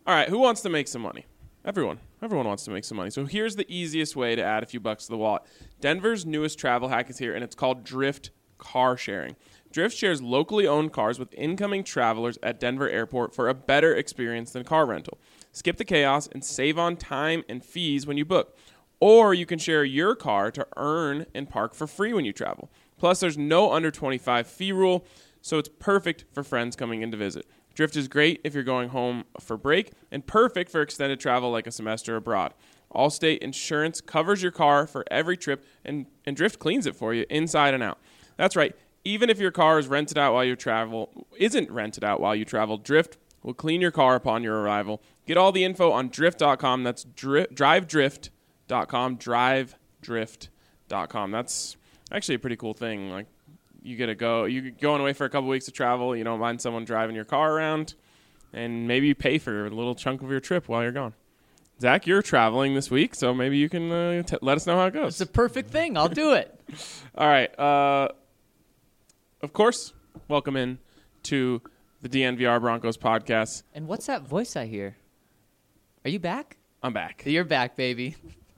All right, who wants to make some money? Everyone wants to make some money. So here's the easiest way to add a few bucks to the wallet. Denver's newest travel hack is here, and it's called Drift Car Sharing. Drift shares locally owned cars with incoming travelers at Denver Airport for a better experience than car rental. Skip the chaos and save on time and fees when you book. Or you can share your car to earn and park for free when you travel. Plus, there's no under 25 fee rule, so it's perfect for friends coming in to visit. Drift is great if you're going home for break and perfect for extended travel like a semester abroad. Allstate Insurance covers your car for every trip, and Drift cleans it for you inside and out. That's right. Even if your car is rented out while you travel, Drift will clean your car upon your arrival. Get all the info on drift.com. That's drivedrift.com, drivedrift.com. That's actually a pretty cool thing. Like, you're going away for a couple weeks of travel, you don't mind someone driving your car around, and maybe you pay for a little chunk of your trip while you're gone. Zach, you're traveling this week, so maybe you can let us know how it goes. It's a perfect thing. I'll do it. All right. Of course, welcome in to the DNVR Broncos podcast. And what's that voice I hear? Are you back? I'm back. You're back, baby.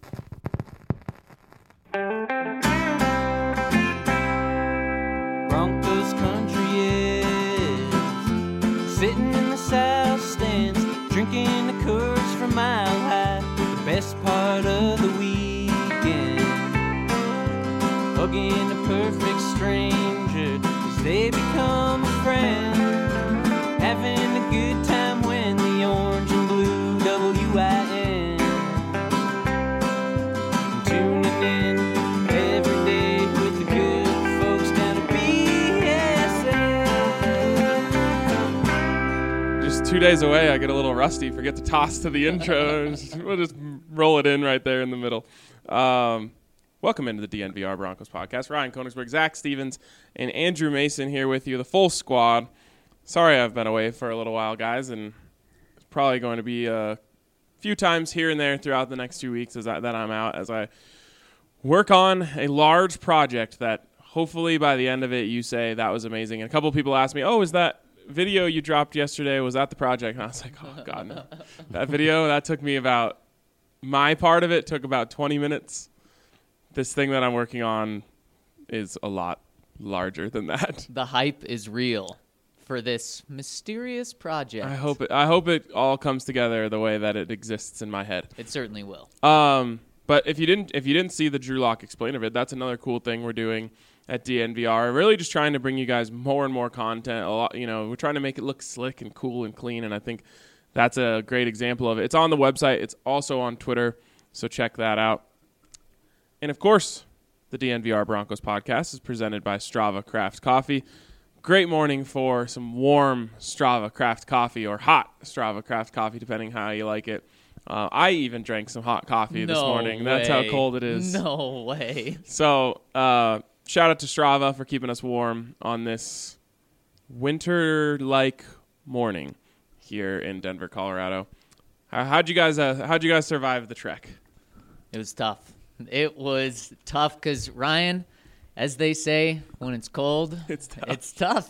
Broncos country is sitting in the south stands, drinking the Coors from Mile High. The best part of the weekend, hugging a perfect stranger as they become a friend, having a good time when the orange and blue WIN, tuning in every day with the good folks down at BSN. Just 2 days away, I get a little rusty. Forget to toss to the intro. We'll just roll it in right there in the middle. Welcome into the DNVR Broncos podcast. Ryan Koenigsberg, Zach Stevens, and Andrew Mason here with you, the full squad. Sorry I've been away for a little while, guys, and it's probably going to be a few times here and there throughout the next 2 weeks that I'm out as I work on a large project that hopefully by the end of it you say that was amazing. And a couple of people asked me, is that video you dropped yesterday, was that the project? And I was like, oh, God, no. That video, that took me my part of it took about 20 minutes. This thing that I'm working on is a lot larger than that. The hype is real for this mysterious project. I hope it all comes together the way that it exists in my head. It certainly will. But if you didn't see the Drew Lock Explainer vid, that's another cool thing we're doing at DNVR. Really just trying to bring you guys more and more content. We're trying to make it look slick and cool and clean, and I think that's a great example of it. It's on the website. It's also on Twitter, so check that out. And, of course, the DNVR Broncos podcast is presented by Strava Craft Coffee. Great morning for some warm Strava Craft Coffee or hot Strava Craft Coffee, depending how you like it. I even drank some hot coffee this morning. That's how cold it is. No way. So shout out to Strava for keeping us warm on this winter-like morning here in Denver, Colorado. How'd you guys survive the trek? It was tough. It was tough because, Ryan, as they say, when it's cold, it's tough.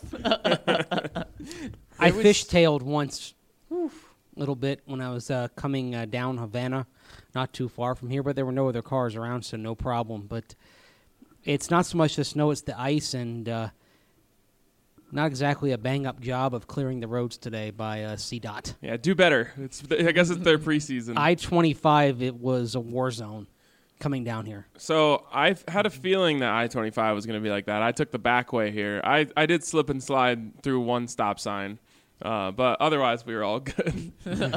I fishtailed once a little bit when I was coming down Havana, not too far from here, but there were no other cars around, so no problem. But it's not so much the snow, it's the ice, and not exactly a bang-up job of clearing the roads today by CDOT. Yeah, do better. I guess it's their preseason. I-25, it was a war zone coming down here. So I've had a feeling that I-25 was going to be like that. I took the back way here. I did slip and slide through one stop sign, but otherwise we were all good.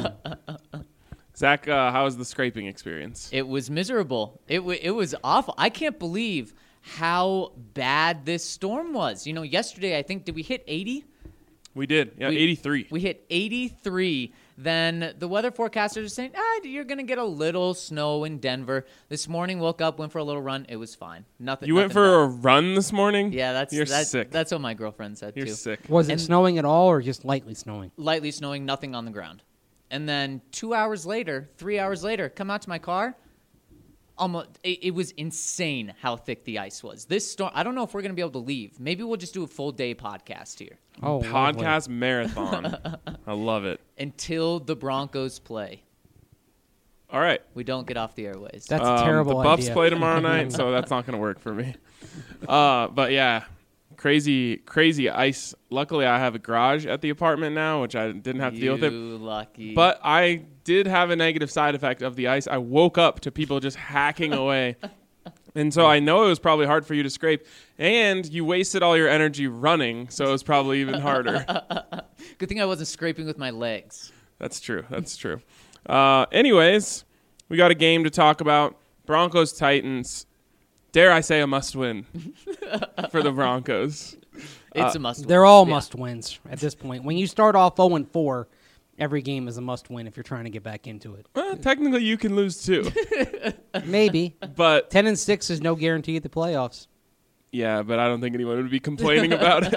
Zach, how was the scraping experience? It was miserable. It was awful. I can't believe how bad this storm was. Yesterday, I think, did we hit 80? We did. Yeah, 83. We hit 83. Then the weather forecasters are saying, you're going to get a little snow in Denver. This morning, woke up, went for a little run. It was fine. Nothing. You went for a run this morning? Yeah, You're sick. That's what my girlfriend said, too. You're sick. Was it snowing at all or just lightly snowing? Lightly snowing, nothing on the ground. And then 3 hours later, come out to my car. It was insane how thick the ice was. This storm, I don't know if we're going to be able to leave. Maybe we'll just do a full day podcast here. Oh, podcast marathon. I love it. Until the Broncos play. All right. We don't get off the airways. That's a terrible The Buffs idea. play tomorrow night, so that's not going to work for me. But yeah, crazy ice. Luckily, I have a garage at the apartment now, which I didn't have to deal with it. Lucky. But I did have a negative side effect of the ice. I woke up to people just hacking away. And so I know it was probably hard for you to scrape. And you wasted all your energy running, so it was probably even harder. Good thing I wasn't scraping with my legs. That's true. Anyways, we got a game to talk about. Broncos-Titans. Dare I say a must-win for the Broncos. It's a must-win. They're all Yeah. must-wins at this point. When you start off 0-4, every game is a must-win if you're trying to get back into it. Well, technically, you can lose too. Maybe. But 10-6 is no guarantee at the playoffs. yeah, but I don't think anyone would be complaining about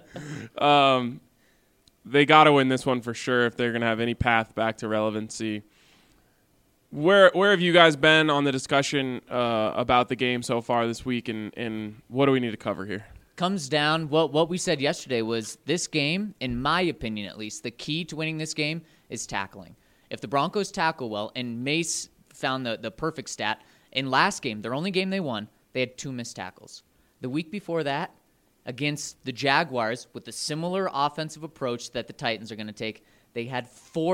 it. They got to win this one for sure if they're going to have any path back to relevancy. Where have you guys been on the discussion about the game so far this week, and what do we need to cover here? Comes down, what we said yesterday was this game, in my opinion at least, the key to winning this game is tackling. If the Broncos tackle well, and Mace found the perfect stat, in last game, their only game they won, they had 2 missed tackles. The week before that, against the Jaguars, with a similar offensive approach that the Titans are going to take, they had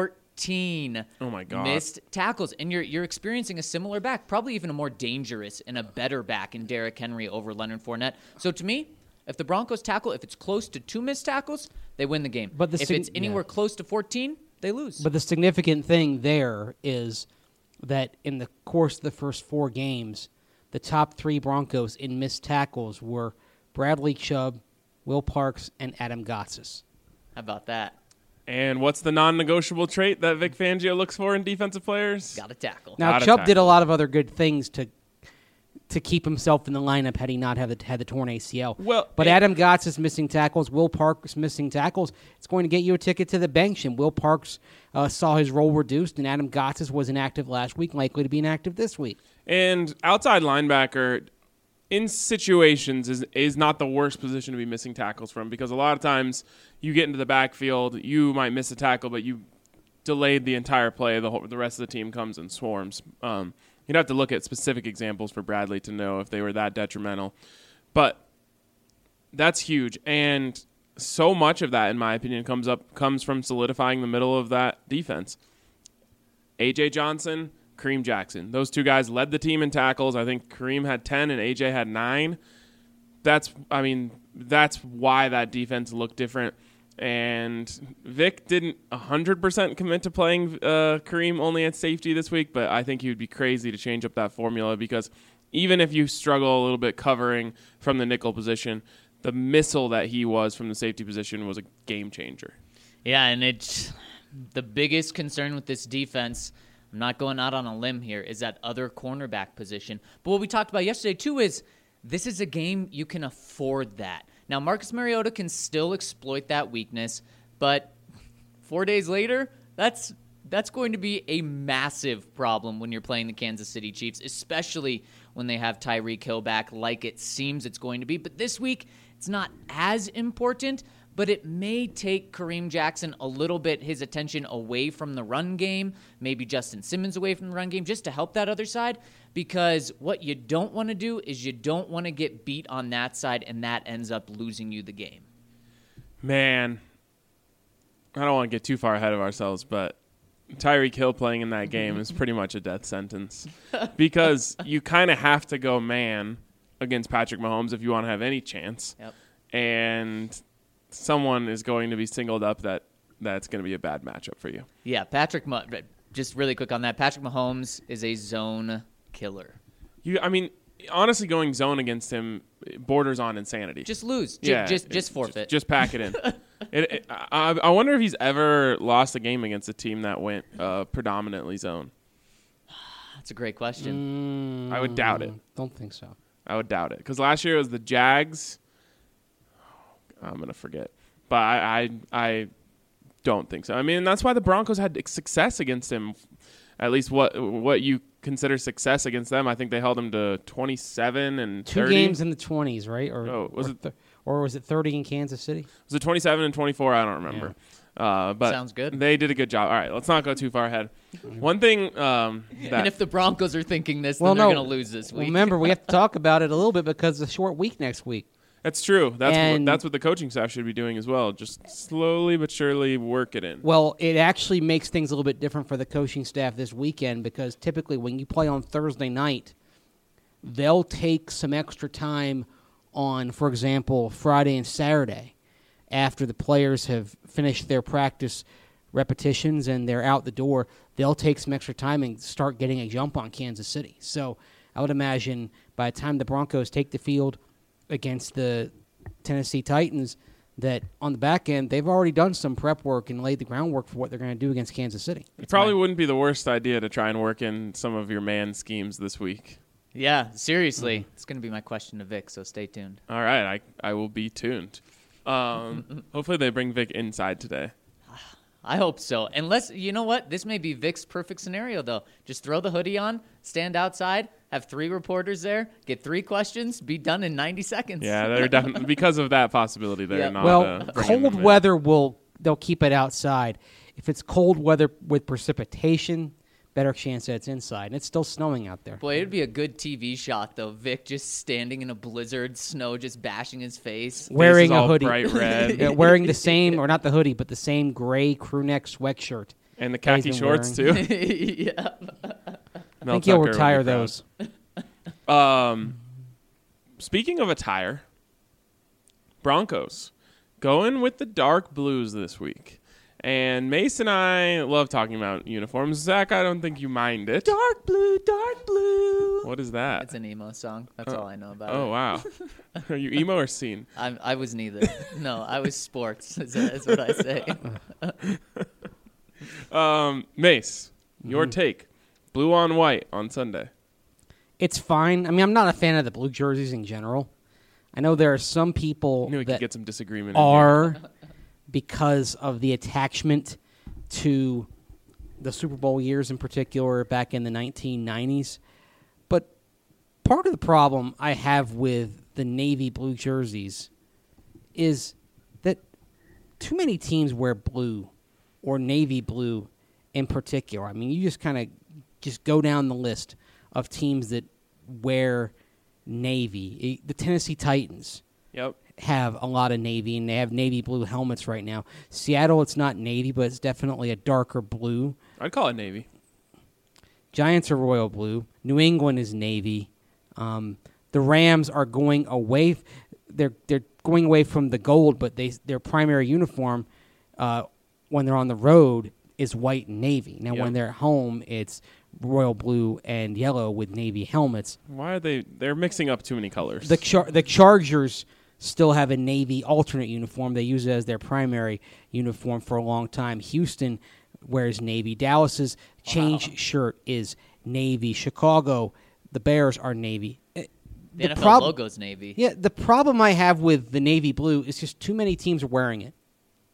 14 Oh my God. missed tackles. And you're experiencing a similar back, probably even a more dangerous and a better back in Derrick Henry over Leonard Fournette. So to me, if the Broncos tackle, if it's close to 2 missed tackles, they win the game. But if it's anywhere close to 14, they lose. But the significant thing there is that in the course of the first 4 games, the top 3 Broncos in missed tackles were Bradley Chubb, Will Parks, and Adam Gotsis. How about that? And what's the non-negotiable trait that Vic Fangio looks for in defensive players? Got to tackle. Now, Gotta Chubb tackle. did a lot of other good things to keep himself in the lineup had he not had the torn ACL. Well, but and- Adam Gotsis missing tackles, Will Parks missing tackles. It's going to get you a ticket to the bench. And Will Parks saw his role reduced, and Adam Gotsis was inactive last week, likely to be inactive this week. And outside linebacker, in situations, is not the worst position to be missing tackles from, because a lot of times you get into the backfield, you might miss a tackle, but you delayed the entire play. The rest of the team comes and swarms. You'd have to look at specific examples for Bradley to know if they were that detrimental. But that's huge. And so much of that, in my opinion, comes from solidifying the middle of that defense. A.J. Johnson, Kareem Jackson. Those 2 guys led the team in tackles. I think Kareem had 10 and A.J. had 9. That's why that defense looked different. And Vic didn't 100% commit to playing Kareem only at safety this week, but I think he would be crazy to change up that formula, because even if you struggle a little bit covering from the nickel position, the missile that he was from the safety position was a game changer. Yeah, and it's the biggest concern with this defense, I'm not going out on a limb here, is that other cornerback position. But what we talked about yesterday, too, is this is a game you can afford that. Now, Marcus Mariota can still exploit that weakness, but 4 days later, that's going to be a massive problem when you're playing the Kansas City Chiefs, especially when they have Tyreek Hill back like it seems it's going to be. But this week, it's not as important, but it may take Kareem Jackson a little bit his attention away from the run game, maybe Justin Simmons away from the run game, just to help that other side, because what you don't want to do is you don't want to get beat on that side, and that ends up losing you the game. Man, I don't want to get too far ahead of ourselves, but Tyreek Hill playing in that game is pretty much a death sentence, because you kind of have to go man against Patrick Mahomes if you want to have any chance. Yep. And someone is going to be singled up that's going to be a bad matchup for you. Yeah, just really quick on that, Patrick Mahomes is a zone killer. Honestly, going zone against him borders on insanity. Just lose. Yeah, Just forfeit. Just pack it in. I wonder if he's ever lost a game against a team that went predominantly zone. That's a great question. I would doubt it. Don't think so. I would doubt it, because last year it was the Jags. I'm gonna forget, but I don't think so. I mean, that's why the Broncos had success against him. At least what you consider success against them. I think they held him to 27 and 2 30. games in the 20s, right? Was it Or was it 30 in Kansas City? Was it 27 and 24? I don't remember. But Sounds good. They did a good job. All right, let's not go too far ahead. One thing And if the Broncos are thinking this, Well, then they're no. going to lose this Well, week. remember, we have to talk about it a little bit because it's a short week next week. that's true. And- That's what the coaching staff should be doing as well. Just slowly but surely work it in. Well, it actually makes things a little bit different for the coaching staff this weekend because typically when you play on Thursday night, they'll take some extra time on, for example, Friday and Saturday after the players have finished their practice repetitions and they're out the door. They'll take some extra time and start getting a jump on Kansas City. So I would imagine by the time the Broncos take the field against the Tennessee Titans, that on the back end, they've already done some prep work and laid the groundwork for what they're going to do against Kansas City. It probably wouldn't be the worst idea to try and work in some of your man schemes this week. Yeah, seriously. It's going to be my question to Vic, so stay tuned. All right, I will be tuned. Hopefully they bring Vic inside today. I hope so. Unless, you know what? This may be Vic's perfect scenario, though. Just throw the hoodie on, stand outside, have 3 reporters there, get 3 questions, be done in 90 seconds. Yeah, they're definitely because of that possibility. They're Yeah. not. Well, bringing cold them in. weather they'll keep it outside. If it's cold weather with precipitation, better chance that it's inside. And it's still snowing out there. Boy, it'd be a good TV shot, though. Vic just standing in a blizzard, snow just bashing his face. Wearing Face is a all hoodie. bright red, Yeah, wearing the same, or not the hoodie, but the same gray crew neck sweatshirt. and the that he's khaki been shorts wearing. too. Yeah. I think he'll retire those. Speaking of attire, Broncos going with the dark blues this week. And Mace and I love talking about uniforms. Zach, I don't think you mind it. Dark blue, dark blue. What is that? It's an emo song. That's all I know about Oh, it. wow. Are you emo or scene? I was neither. No, I was sports, is what I say. Mace, your take. Blue on white on Sunday. It's fine. I mean, I'm not a fan of the blue jerseys in general. I know there are some people I knew we could that get some disagreement in here. are because of the attachment to the Super Bowl years in particular back in the 1990s. But part of the problem I have with the navy blue jerseys is that too many teams wear blue or navy blue in particular. I mean, you just kind of just go down the list of teams that wear navy. The Tennessee Titans Yep. have a lot of navy, and they have navy blue helmets right now. Seattle, it's not navy, but it's definitely a darker blue. I'd call it navy. Giants are royal blue. New England is navy. The Rams are going away. They're going away from the gold, but their primary uniform when they're on the road is white and navy. Now, Yep. when they're at home, it's royal blue and yellow with navy helmets. Why are they're mixing up too many colors. The Chargers still have a navy alternate uniform. They use it as their primary uniform for a long time. Houston wears navy. Dallas's change shirt is navy. Chicago, the Bears are navy. The NFL logo's navy. Yeah, the problem I have with the navy blue is just too many teams are wearing it.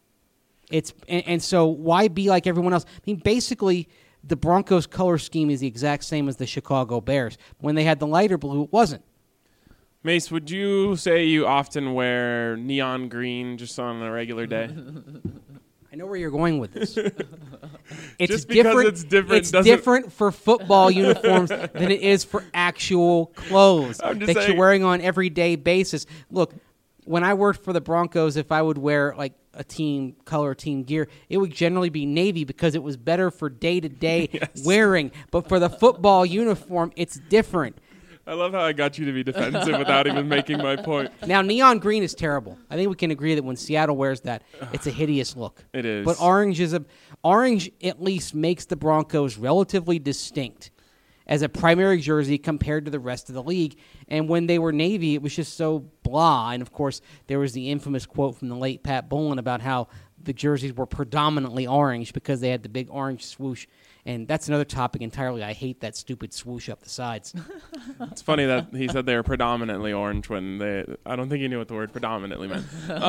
And so why be like everyone else? I mean, basically, the Broncos color scheme is the exact same as the Chicago Bears. When they had the lighter blue, it wasn't. Mace, would you say you often wear neon green just on a regular day? I know where you're going with this. It's Just because it's different It's doesn't- different for football uniforms than it is for actual clothes I'm just that saying. you're wearing on everyday basis. Look, when I worked for the Broncos, if I would wear like a team color, team gear, it would generally be navy because it was better for day-to-day Yes. wearing. But for the football uniform, it's different. I love how I got you to be defensive without even making my point. Now, neon green is terrible. I think we can agree that when Seattle wears that, it's a hideous look. It is. But orange at least makes the Broncos relatively distinct as a primary jersey compared to the rest of the league. And when they were navy, it was just so blah. And, of course, there was the infamous quote from the late Pat Bowlen about how the jerseys were predominantly orange because they had the big orange swoosh. And that's another topic entirely. I hate that stupid swoosh up the sides. It's funny that he said they were predominantly orange when I don't think he knew what the word predominantly meant.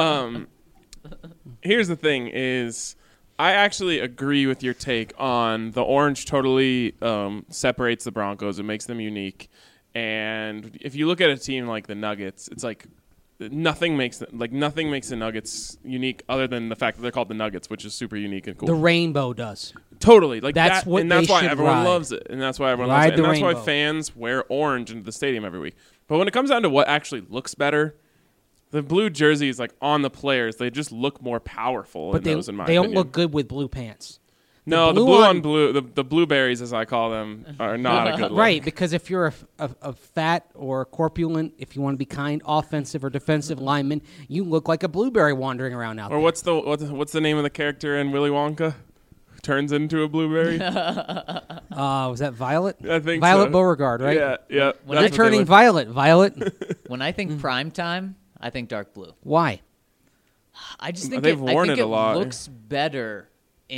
Here's the thing is I actually agree with your take on the orange totally separates the Broncos. It makes them unique. And if you look at a team like the Nuggets, it's like nothing makes the Nuggets unique other than the fact that they're called the Nuggets, which is super unique and cool. The rainbow does. Totally, like That's that, what and that's they why should everyone ride. loves it, and that's why everyone Ride loves it, and the that's why rainbow. fans wear orange into the stadium every week. But when it comes down to what actually looks better, the blue jerseys, like on the players, they just look more powerful. But in those, in my they don't opinion. look good with blue pants. No, the blue blue on- on blue, the blueberries, as I call them, are not a good look. Right, because if you're a fat or corpulent, if you want to be kind, offensive or defensive lineman, you look like a blueberry wandering around out Or there. what's the name of the character in Willy Wonka? Turns into a blueberry. Was that Violet? I think Violet so. Beauregard, right? Yeah, yeah. When You're I- that's what they turning look- violet. Violet. When I think prime time, I think dark blue. Why? I just think They've I worn think it a lot. looks better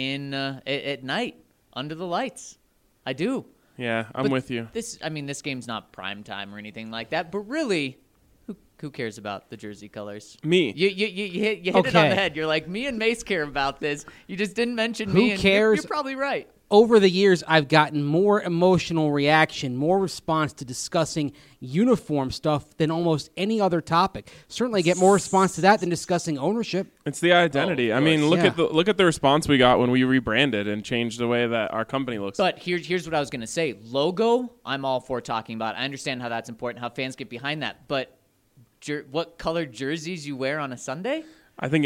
at night under the lights. I do. Yeah, I'm But with you. This game's not prime time or anything like that. But really, who cares about the jersey colors? Me. You hit it on Okay. the head. You're like, me and Mace care about this. You just didn't mention Who me. And cares? You're probably right. Over the years, I've gotten more emotional reaction, more response to discussing uniform stuff than almost any other topic. Certainly get more response to that than discussing ownership. It's the identity. Oh, I of mean, course. look at the response we got when we rebranded and changed the way that our company looks. But here's what I was going to say. Logo, I'm all for talking about. I understand how that's important, how fans get behind that. But what colored jerseys you wear on a Sunday? I think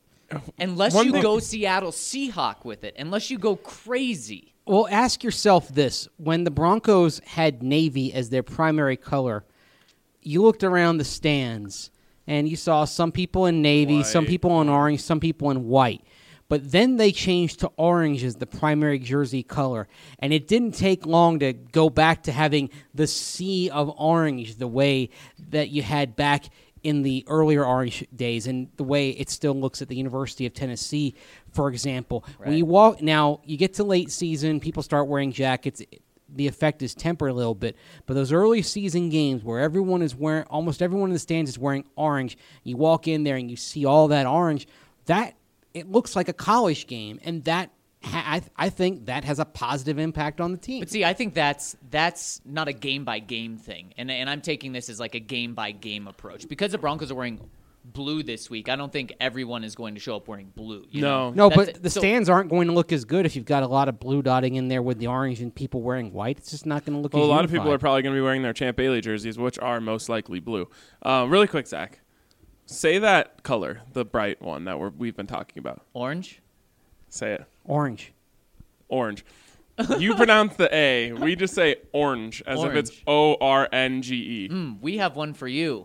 Unless One you thing- go Seattle Seahawk with it. Unless you go crazy. Well, ask yourself this. When the Broncos had navy as their primary color, you looked around the stands and you saw some people in navy, some White. people in orange, some people in white. But then they changed to orange as the primary jersey color. And it didn't take long to go back to having the sea of orange the way that you had back in the earlier orange days and the way it still looks at the University of Tennessee, for example. When you walk now, you get to late season, people start wearing jackets. The effect is tempered a little bit. But those early season games where almost everyone in the stands is wearing orange, you walk in there and you see all that orange, that it looks like a college game, and that I think that has a positive impact on the team. But see, I think that's not a game-by-game thing. And I'm taking this as like a game-by-game approach. Because the Broncos are wearing blue this week, I don't think everyone is going to show up wearing blue. You know? No, That's- but the so- stands aren't going to look as good if you've got a lot of blue dotting in there with the orange and people wearing white. It's just not going to look well, as a lot of unified. people are probably going to be wearing their Champ Bailey jerseys, which are most likely blue. Really quick, Zach, say that color, the bright one that we've been talking about. Orange? Say it. Orange. Orange. You pronounce the A. We just say orange as if it's ORNGE. We have one for you.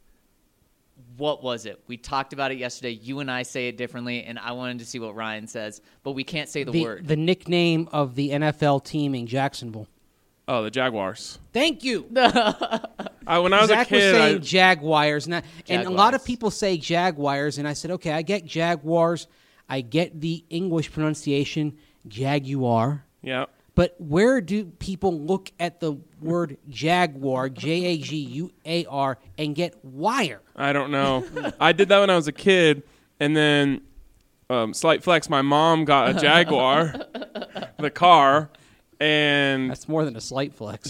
What was it? We talked about it yesterday. You and I say it differently, and I wanted to see what Ryan says, but we can't say the word. The nickname of the NFL team in Jacksonville. Oh, the Jaguars. Thank you. When I was Zach a kid, was saying Jaguars, and a lot Jaguars. of people say Jaguars, and I said, okay, I get Jaguars, I get the English pronunciation, Jaguar, yeah. but where do people look at the word Jaguar, Jaguar, and get wire? I don't know. I did that when I was a kid, and then slight flex, my mom got a Jaguar, the car, and That's more than a slight flex.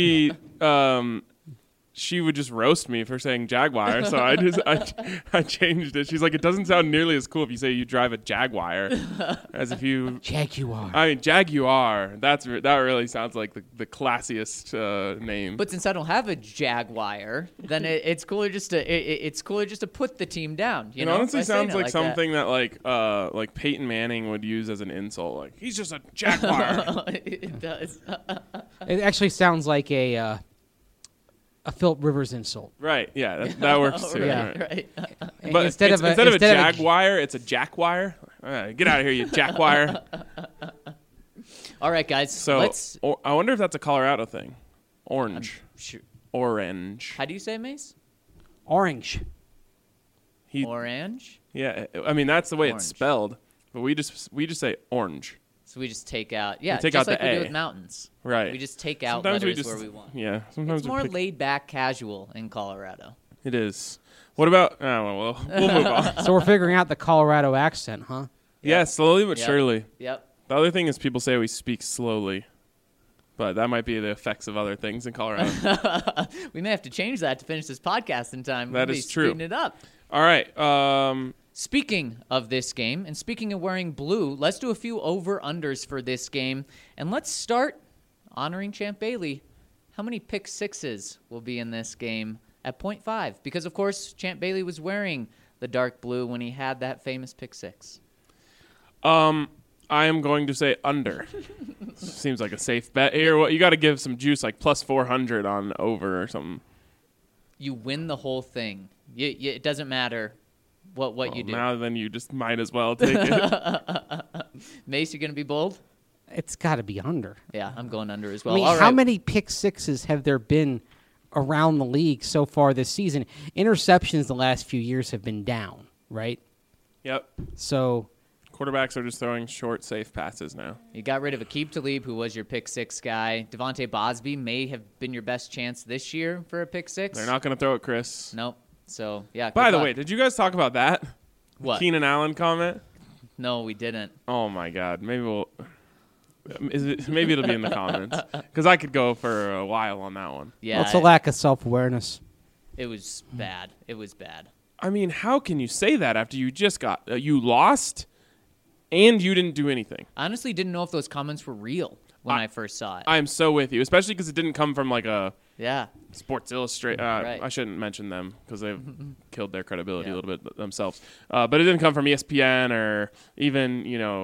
she would just roast me for saying Jaguar, so I changed it. She's like, it doesn't sound nearly as cool if you say you drive a Jaguar, as if you. Jaguar. I mean, Jaguar. That really sounds like the classiest name. But since I don't have a Jaguar, then it's cooler just to put the team down. You it know? honestly By saying sounds it like that. something that like Peyton Manning would use as an insult. Like, he's just a Jaguar. It does. It actually sounds like a Philip Rivers insult. Right? Yeah, that works too. Yeah. Right. Right. But instead of a Jaguar, it's a Jackwire. Get out of here, you Jackwire. All right, guys. So let's. I wonder if that's a Colorado thing. Orange. Shoot. Orange. How do you say it, Mace? Orange. Orange. Yeah, I mean that's the way Orange. it's spelled, but we just say orange. So we just take out, yeah, take just out like the we do A. with mountains. Right. We just take out Sometimes letters where we want. Yeah, sometimes It's more we pick, laid back, casual in Colorado. it is. What about? We'll move on. So we're figuring out the Colorado accent, huh? Yeah, slowly but Yep. surely. Yep. The other thing is people say we speak slowly, but that might be the effects of other things in Colorado. We may have to change that to finish this podcast in time. That We'll is be true. speeding it up. All right. Speaking of this game, and speaking of wearing blue, let's do a few over-unders for this game. And let's start honoring Champ Bailey. How many pick sixes will be in this game at 0.5? Because, of course, Champ Bailey was wearing the dark blue when he had that famous pick six. I am going to say under. Seems like a safe bet here. Well, you got to give some juice, like plus 400 on over or something. You win the whole thing. It doesn't matter what you do. Now then you just might as well take it. Mace, you going to be bold? It's got to be under. Yeah, I'm going under as well. I mean, All how right. many pick sixes have there been around the league so far this season? Interceptions the last few years have been down, right? Yep. So Quarterbacks are just throwing short, safe passes now. You got rid of Aqib Talib, who was your pick six guy. Devontae Bosby may have been your best chance this year for a pick six. They're not going to throw it, Chris. Nope. So, yeah. By good the luck. way, did you guys talk about that? What? Keenan Allen comment? No, we didn't. Oh, my God. Maybe maybe it'll be in the comments. Because I could go for a while on that one. Yeah. it's a lack of self-awareness. It was bad. It was bad. I mean, how can you say that after you just got you lost and you didn't do anything? I honestly didn't know if those comments were real when I first saw it. I am so with you, especially because it didn't come from like a Yeah. Sports Illustrated. Right. I shouldn't mention them because they've killed their credibility Yeah. a little bit themselves. But it didn't come from ESPN or even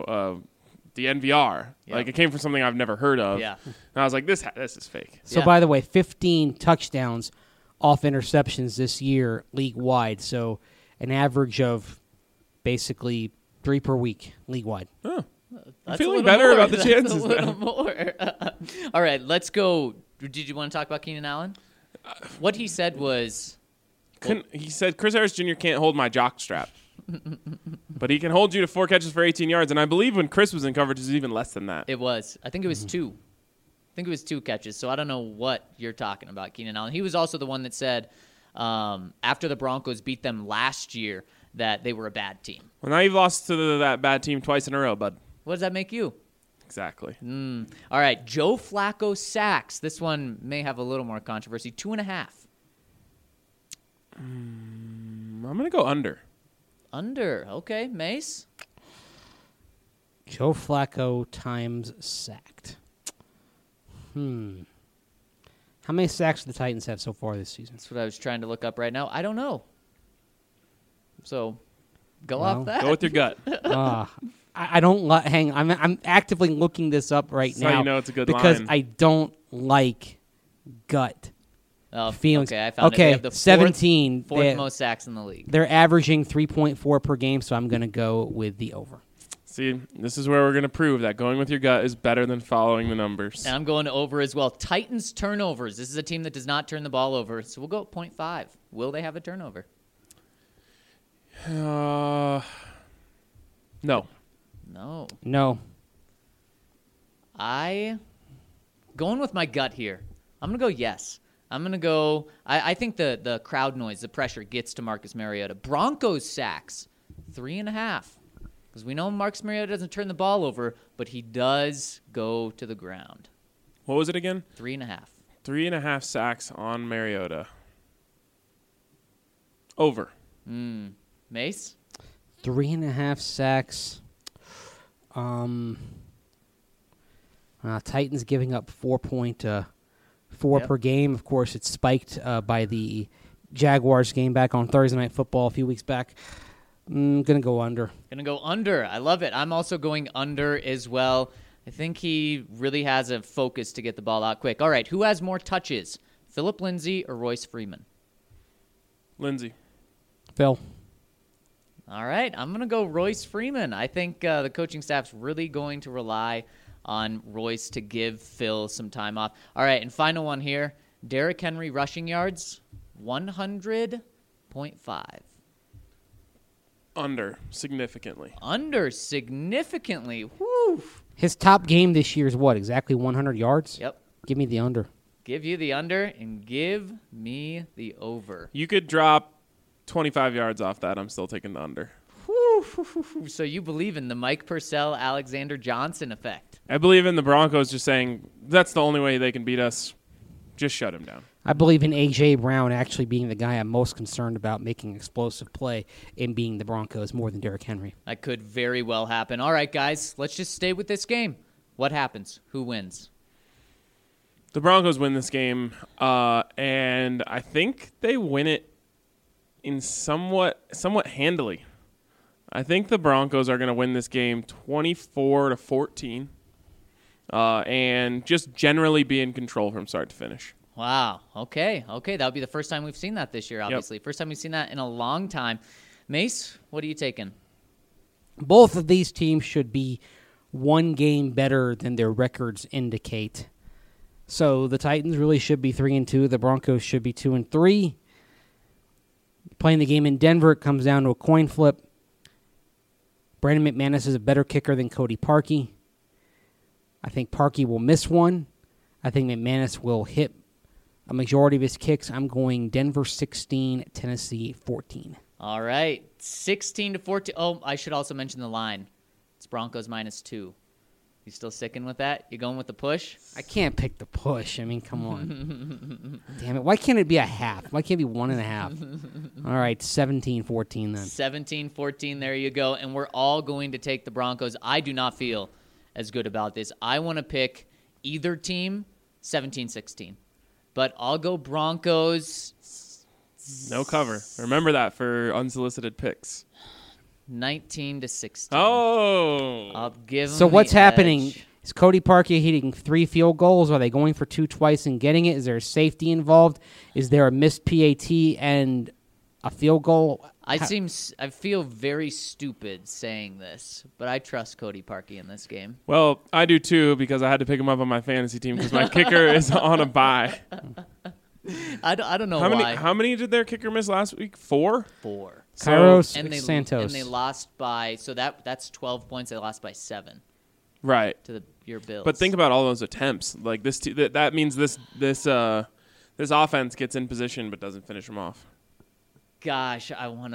the NVR. Yeah. Like it came from something I've never heard of. Yeah. And I was like, this is fake. So, Yeah. by the way, 15 touchdowns off interceptions this year league-wide. So, an average of basically 3 per week league-wide. Oh. That's feeling a little better more. about the That's chances a little now. more. All right, let's go. Did you want to talk about Keenan Allen? What he said was, He said Chris Harris Jr. can't hold my jock strap. But he can hold you to 4 catches for 18 yards. And I believe when Chris was in coverage, it was even less than that. it was. I think it was 2. I think it was 2 catches. So I don't know what you're talking about, Keenan Allen. He was also the one that said after the Broncos beat them last year that they were a bad team. Well, now you've lost to that bad team twice in a row, bud. What does that make you? Exactly. All right, Joe Flacco sacks. This one may have a little more controversy. 2.5. I'm going to go under. Under. Okay, Mace. Joe Flacco times sacked. How many sacks do the Titans have so far this season? That's what I was trying to look up right now. I don't know. So, go Well, off that. Go with your gut. I don't hang. I'm actively looking this up right That's how now. you know it's a good because line. I don't like gut feelings. Okay, I found it. Okay, They have the 17. Fourth most sacks in the league. They're averaging 3.4 per game, so I'm going to go with the over. See, this is where we're going to prove that going with your gut is better than following the numbers. And I'm going over as well. Titans turnovers. This is a team that does not turn the ball over, so we'll go at 0.5. Will they have a turnover? No. No. No. Going with my gut here. I'm going to go yes. I'm going to go. I think the crowd noise, the pressure gets to Marcus Mariota. Broncos sacks, 3.5. Because we know Marcus Mariota doesn't turn the ball over, but he does go to the ground. What was it again? 3.5. 3.5 sacks on Mariota. Over. Mace? 3.5 sacks. Titans giving up 4.4 Yep. per game. Of course, it's spiked by the Jaguars game back on Thursday Night Football a few weeks back. I'm going to go under. Going to go under. I love it. I'm also going under as well. I think he really has a focus to get the ball out quick. All right, who has more touches, Phillip Lindsay or Royce Freeman? Lindsay. Phil. All right, I'm going to go Royce Freeman. I think the coaching staff's really going to rely on Royce to give Phil some time off. All right, and final one here. Derrick Henry rushing yards, 100.5. Under. Significantly. Under significantly. Woo. His top game this year is what? Exactly 100 yards? Yep. Give me the under. Give you the under and give me the over. You could drop 25 yards off that. I'm still taking the under. So you believe in the Mike Purcell, Alexander Johnson effect? I believe in the Broncos just saying that's the only way they can beat us. Just shut him down. I believe in A.J. Brown actually being the guy I'm most concerned about making explosive play and being the Broncos more than Derrick Henry. That could very well happen. All right, guys, let's just stay with this game. What happens? Who wins? The Broncos win this game, and I think they win it in somewhat handily. I think the Broncos are going to win this game 24-14, and just generally be in control from start to finish. Wow. Okay. That would be the first time we've seen that this year, obviously. Yep. First time we've seen that in a long time. Mace, what are you taking? Both of these teams should be one game better than their records indicate. So the Titans really should be 3-2. The Broncos should be 2-3. Playing the game in Denver, it comes down to a coin flip. Brandon McManus is a better kicker than Cody Parkey. I think Parkey will miss one. I think McManus will hit a majority of his kicks. I'm going Denver 16, Tennessee 14. All right, 16-14. Oh, I should also mention the line. It's Broncos -2. You still sticking with that? You going with the push? I can't pick the push. I mean, come on. Damn it. Why can't it be a half? Why can't it be 1.5? All right, 17-14 then. 17-14, there you go. And we're all going to take the Broncos. I do not feel as good about this. I want to pick either team 17-16. But I'll go Broncos. No cover. Remember that for unsolicited picks. 19-16. Oh. I'll give them So what's the happening? edge. Is Cody Parkey hitting 3 field goals? Are they going for 2 twice and getting it? Is there a safety involved? Is there a missed PAT and a field goal? I feel very stupid saying this, but I trust Cody Parkey in this game. Well, I do too because I had to pick him up on my fantasy team because my kicker is on a bye. I don't know why. How many did their kicker miss last week? 4? 4. Kairos And Santos. they lost by, so that's 12 points. They lost by 7 Right. to your Bills. But think about all those attempts. Like this, that means this offense gets in position but doesn't finish them off. Gosh, I want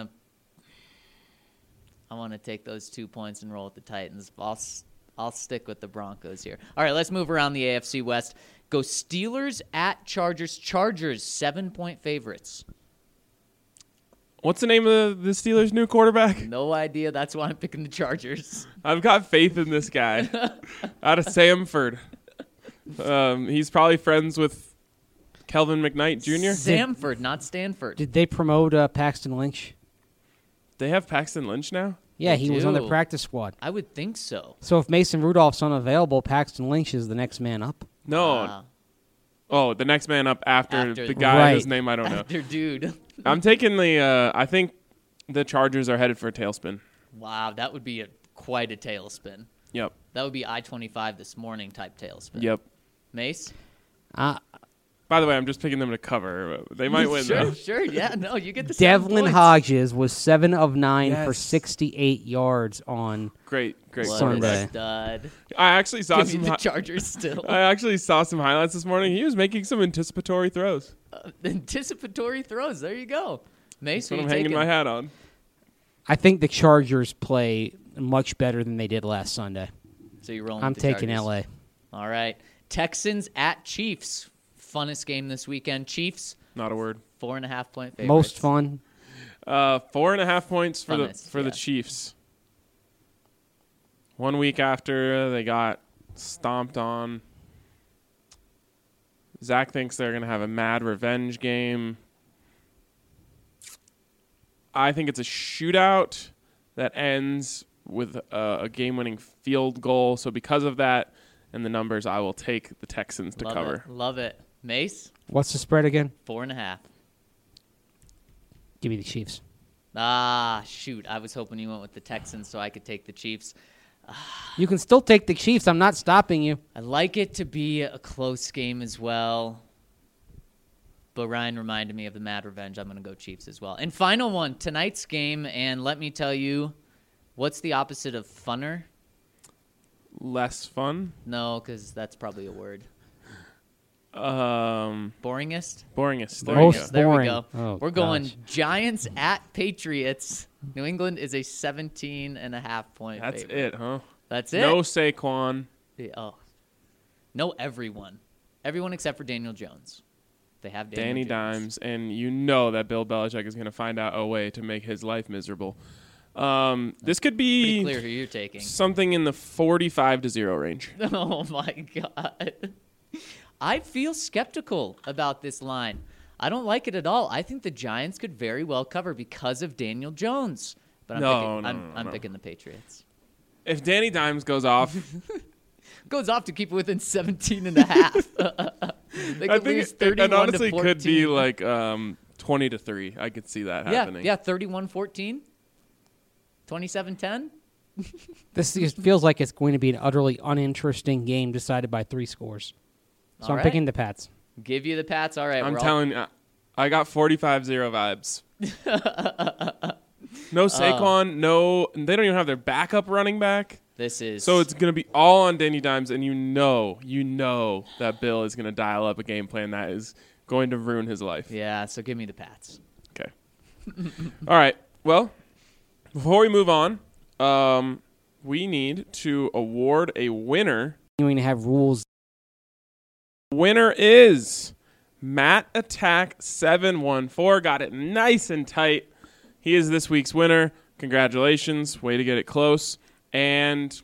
to take those 2 points and roll with the Titans. I'll stick with the Broncos here. All right, let's move around the AFC West. Go Steelers at Chargers. Chargers 7-point favorites. What's the name of the Steelers' new quarterback? No idea. That's why I'm picking the Chargers. I've got faith in this guy. Out of Samford. He's probably friends with Kelvin McKnight Jr. Samford, not Stanford. Did they promote Paxton Lynch? They have Paxton Lynch now? Yeah, They he was on the do. practice squad. I would think so. So if Mason Rudolph's unavailable, Paxton Lynch is the next man up. No. Wow. Oh, the next man up after the guy Right. whose name I don't know. After dude. I'm taking I think the Chargers are headed for a tailspin. Wow, that would be quite a tailspin. Yep. That would be I-25 this morning type tailspin. Yep. Mace? By the way, I'm just picking them to cover. They might win, though. Sure, yeah. No, you get the 7 Devlin points. Hodges was 7 of 9 for Yes. 68 yards on. Great What Sunday. a stud. I actually saw Give me some. the Chargers still. I actually saw some highlights this morning. He was making some anticipatory throws. Anticipatory throws. There you go. Mace, That's who what you I'm hanging taking? my hat on. I think the Chargers play much better than they did last Sunday. So you're rolling I'm with the taking Chargers. LA. All right. Texans at Chiefs. Funnest game this weekend. Chiefs, Not a word. 4.5-point favorites. Most fun. 4.5 points for Funnest, the yeah. Chiefs. 1 week after they got stomped on. Zach thinks they're going to have a mad revenge game. I think it's a shootout that ends with a game-winning field goal. So because of that and the numbers, I will take the Texans to Love cover. It. Love it. Mace, What's the spread again? 4.5. Give me the Chiefs. Ah, shoot. I was hoping you went with the Texans so I could take the Chiefs. You can still take the Chiefs. I'm not stopping you. I'd like it to be a close game as well. But Ryan reminded me of the mad revenge. I'm going to go Chiefs as well. And final one, tonight's game. And let me tell you, what's the opposite of funner? Less fun. No, because that's probably a word. Boringest. Boringest? There Most you go. There we boring. go. Oh, We're going gosh. Giants at Patriots. New England is a 17.5-point That's favorite. it, huh? That's it. No Saquon. Oh, No, everyone. Everyone except for Daniel Jones. They have Danny Daniel Jones. Dimes, and you know that Bill Belichick is going to find out a way to make his life miserable. This could Pretty be clear who you're taking. something in the 45-0 range. Oh, my God. I feel skeptical about this line. I don't like it at all. I think the Giants could very well cover because of Daniel Jones. But I'm picking the Patriots. If Danny Dimes goes off, Goes off to keep it within 17 and a half. They I could think lose it 31 honestly to could be 14. like 20-3. I could see that happening. Yeah, 31-14. 27-10. This just feels like it's going to be an utterly uninteresting game decided by 3 scores. So All I'm right. picking the Pats. Give you the Pats. All right. I'm we're all- telling you, I got 45-0 vibes. No Saquon, no. They don't even have their backup running back. This is So it's going to be all on Danny Dimes, and you know that Bill is going to dial up a game plan that is going to ruin his life. Yeah, so give me the Pats. Okay. All right. Well, before we move on, we need to award a winner. Continuing to have rules. Winner is Matt Attack 714. Got it nice and tight. He is this week's winner. Congratulations. Way to get it close. And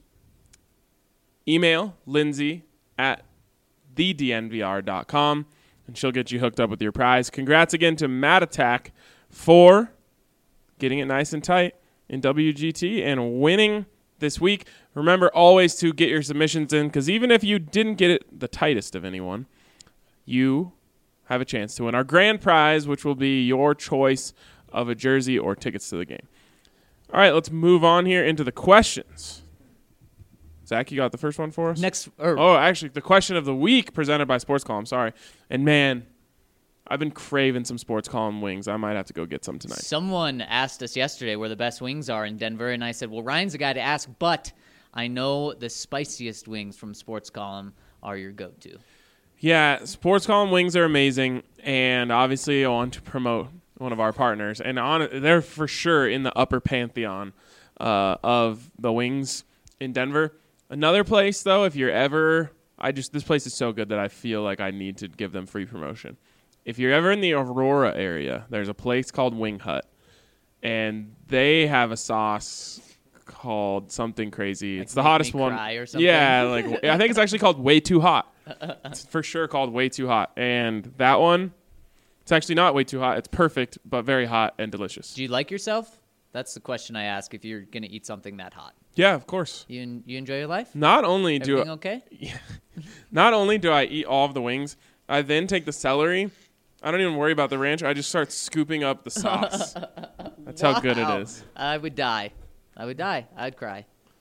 email Lindsay at thednvr.com, and she'll get you hooked up with your prize. Congrats again to Matt Attack for getting it nice and tight in WGT and winning this week. Remember always to get your submissions in, because even if you didn't get it the tightest of anyone, you have a chance to win our grand prize, which will be your choice of a jersey or tickets to the game. All right, let's move on here into the questions. Zach, you got the first one for us? Actually, the question of the week presented by Sports Column. Sorry. And, man, I've been craving some Sports Column wings. I might have to go get some tonight. Someone asked us yesterday where the best wings are in Denver, and I said, well, Ryan's the guy to ask, but I know the spiciest wings from Sports Column are your go-to. Yeah, Sports Column wings are amazing, and obviously I want to promote one of our partners, and they're for sure in the upper pantheon of the wings in Denver. Another place, though, if you're ever, this place is so good that I feel like I need to give them free promotion. If you're ever in the Aurora area, there's a place called Wing Hut, and they have a sauce called something crazy. Like it's the Make hottest Me one. Cry or something? Yeah, I think it's actually called Way Too Hot. It's for sure called Way Too Hot, and that one. It's actually not way too hot. It's perfect, but very hot and delicious. Do you like yourself? That's the question I ask if you're going to eat something that hot. Yeah, of course. You enjoy your life? Not only Everything okay? Not only do I eat all of the wings, I then take the celery. I don't even worry about the ranch. I just start scooping up the sauce. That's how good it is. I would die. I'd cry.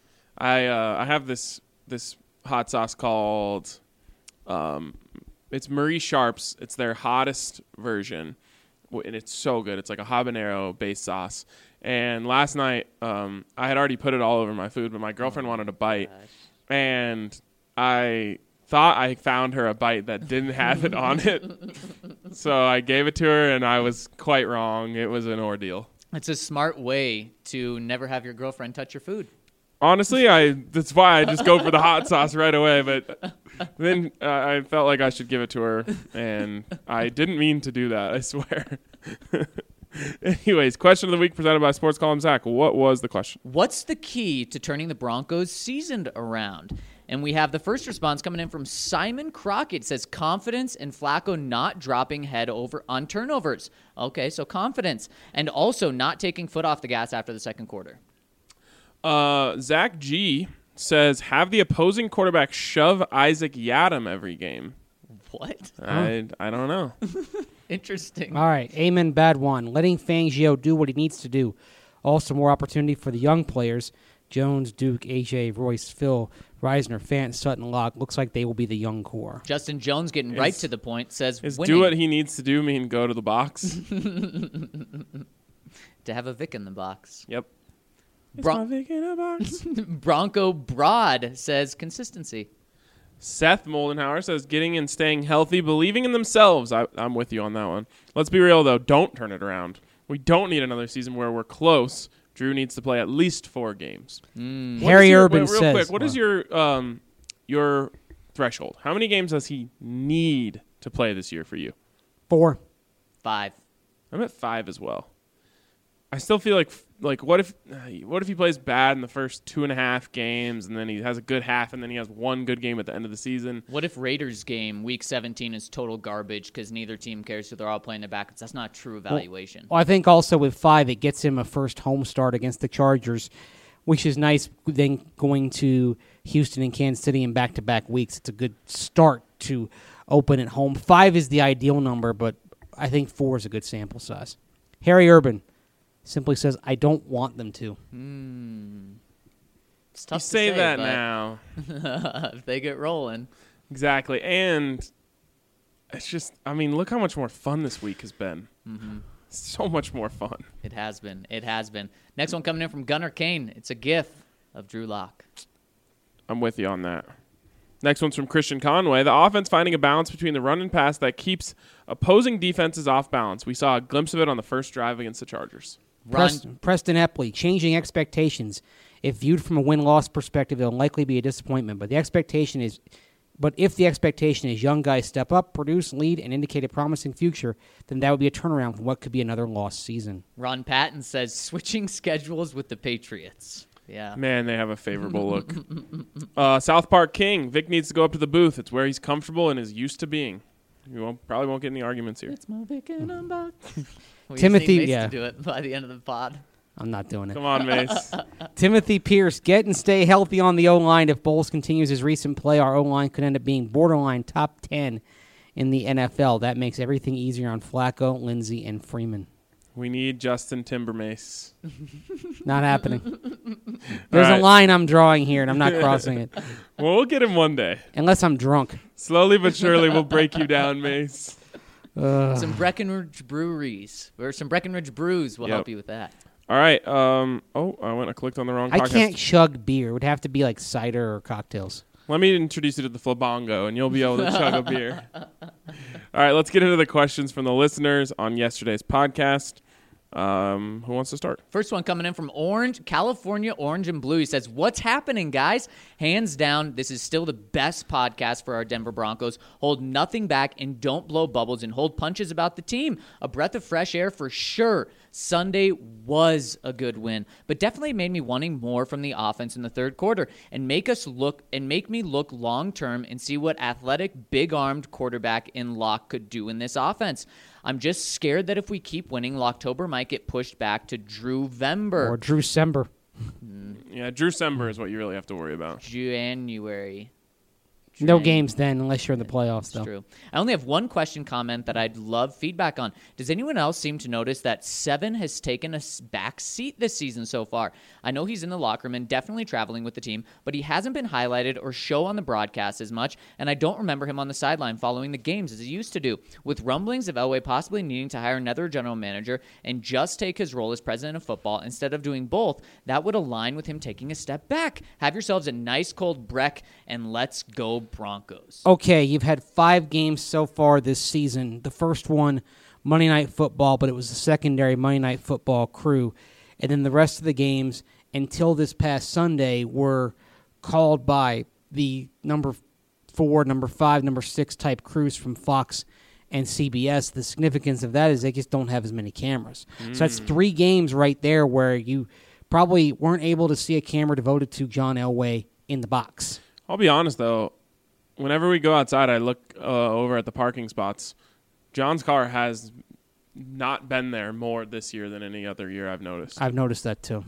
I have this hot sauce called it's Marie Sharp's. It's their hottest version, and it's so good. It's like a habanero-based sauce. And last night, I had already put it all over my food, but my girlfriend wanted a bite, and I thought I found her a bite that didn't have it on it. So I gave it to her, and I was quite wrong. It was an ordeal. It's a smart way to never have your girlfriend touch your food. Honestly, that's why I just go for the hot sauce right away. But then I felt like I should give it to her, and I didn't mean to do that, I swear. Anyways, question of the week presented by Sports Column. Zach, what was the question? What's the key to turning the Broncos' season around? And we have the first response coming in from Simon Crockett. It says confidence and Flacco not dropping head over on turnovers. Okay, so confidence. And also not taking foot off the gas after the second quarter. Zach G says, have the opposing quarterback shove Isaac Yadam every game. What? I don't know. Interesting. All right, amen, bad one. Letting Fangio do what he needs to do. Also more opportunity for the young players. Jones, Duke, AJ, Royce, Phil, Reisner, Fant, Sutton, Locke. Looks like they will be the young core. Justin Jones getting right to the point says Is winning. do what he needs to do mean go to the box? To have a Vic in the box. Yep. Bron- Vic in a box. Bronco Broad says consistency. Seth Moldenhauer says getting and staying healthy, believing in themselves. I'm with you on that one. Let's be real, though. Don't turn it around. We don't need another season where we're close. Drew needs to play at least 4 games. Harry Urban real says. quick, what is your threshold? How many games does he need to play this year for you? 4. 5. I'm at 5 as well. I still feel like what if he plays bad in the first 2.5 games, and then he has a good half, and then he has one good game at the end of the season? What if Raiders game week 17 is total garbage because neither team cares, so they're all playing their backups? That's not true evaluation. Well, I think also with 5, it gets him a first home start against the Chargers, which is nice. Then going to Houston and Kansas City in back-to-back weeks, it's a good start to open at home. 5 is the ideal number, but I think 4 is a good sample size. Harry Urban simply says, I don't want them to. It's tough You say that but now. if they get rolling. Exactly. And it's just, I mean, look how much more fun this week has been. So much more fun. It has been. It has been. Next one coming in from Gunnar Kane. It's a gif of Drew Lock. I'm with you on that. Next one's from Christian Conway. The offense finding a balance between the run and pass that keeps opposing defenses off balance. We saw a glimpse of it on the first drive against the Chargers. Preston Epley, changing expectations. If viewed from a win-loss perspective, it'll likely be a disappointment. But if the expectation is young guys step up, produce, lead, and indicate a promising future, then that would be a turnaround from what could be another lost season. Ron Patton says switching schedules with the Patriots. Yeah. Man, they have a favorable look. South Park King. Vic needs to go up to the booth. It's where he's comfortable and is used to being. You probably won't get any arguments here. It's my Vic and I'm back. We Timothy, just need Mace yeah. to do it by the end of the pod. I'm not doing it. Come on, Mace. Timothy Pierce, get and stay healthy on the O-line. If Bowles continues his recent play, our O-line could end up being borderline top 10 in the NFL. That makes everything easier on Flacco, Lindsey, and Freeman. We need Justin Timbermace. Not happening. There's right. a line I'm drawing here, and I'm not crossing it. Well, we'll get him one day. Unless I'm drunk. Slowly but surely, we'll break you down, Mace. Some Breckenridge breweries, or some Breckenridge brews will help you with that. All right. I clicked on the wrong podcast. I can't chug beer. It would have to be like cider or cocktails. Let me introduce you to the Flabongo, and you'll be able to chug a beer. All right, let's get into the questions from the listeners on yesterday's podcast. Who wants to start? First one coming in from California Orange and Blue. He says, what's happening, guys? Hands down, this is still the best podcast for our Denver Broncos. Hold nothing back and don't blow bubbles and hold punches about the team. A breath of fresh air for sure. Sunday was a good win, but definitely made me wanting more from the offense in the third quarter and make me look long term and see what athletic, big-armed quarterback in Locke could do in this offense. I'm just scared that if we keep winning, Locktober might get pushed back to Drewvember. Or Drew Sember. Yeah, Drew Sember is what you really have to worry about. January. No games then, unless you're in the playoffs, though. That's true. I only have one question comment that I'd love feedback on. Does anyone else seem to notice that Seven has taken a back seat this season so far? I know he's in the locker room and definitely traveling with the team, but he hasn't been highlighted or show on the broadcast as much, and I don't remember him on the sideline following the games as he used to do. With rumblings of Elway possibly needing to hire another general manager and just take his role as president of football instead of doing both, that would align with him taking a step back. Have yourselves a nice cold Breck, and let's go Broncos. Okay, you've had 5 games so far this season. The first one, Monday Night Football, but it was the secondary Monday Night Football crew. And then the rest of the games until this past Sunday were called by the number 4, number 5, number 6 type crews from Fox and CBS. The significance of that is they just don't have as many cameras. So that's 3 games right there where you probably weren't able to see a camera devoted to John Elway in the box. I'll be honest, though. Whenever we go outside, I look over at the parking spots. John's car has not been there more this year than any other year I've noticed. I've noticed that too.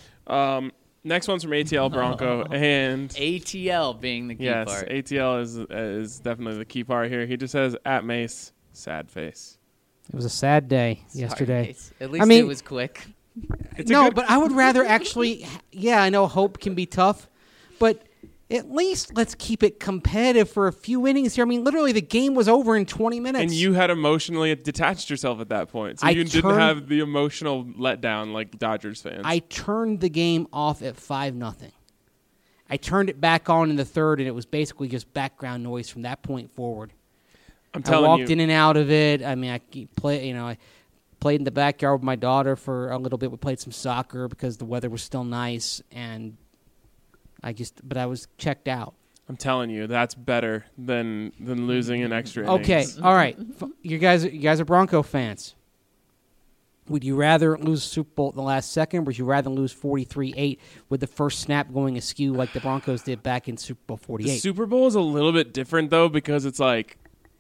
Next one's from ATL Bronco. And ATL being the key yes, part. ATL is definitely the key part here. He just says, at Mace, sad face. It was a sad day Sorry, yesterday. Mace. At least it was quick. But I would rather actually, I know hope can be tough, but at least let's keep it competitive for a few innings here. I mean, literally the game was over in 20 minutes. And you had emotionally detached yourself at that point. So you didn't have the emotional letdown like Dodgers fans. I turned the game off at 5-0. I turned it back on in the third, and it was basically just background noise from that point forward. I'm telling you. I walked in and out of it. I mean, I played in the backyard with my daughter for a little bit. We played some soccer because the weather was still nice, and I was checked out. I'm telling you, that's better than losing an extra Okay, innings. all right. You guys are Bronco fans. Would you rather lose Super Bowl at the last second, or would you rather lose 43-8 with the first snap going askew like the Broncos did back in Super Bowl The 48? Super Bowl is a little bit different, though, because it's like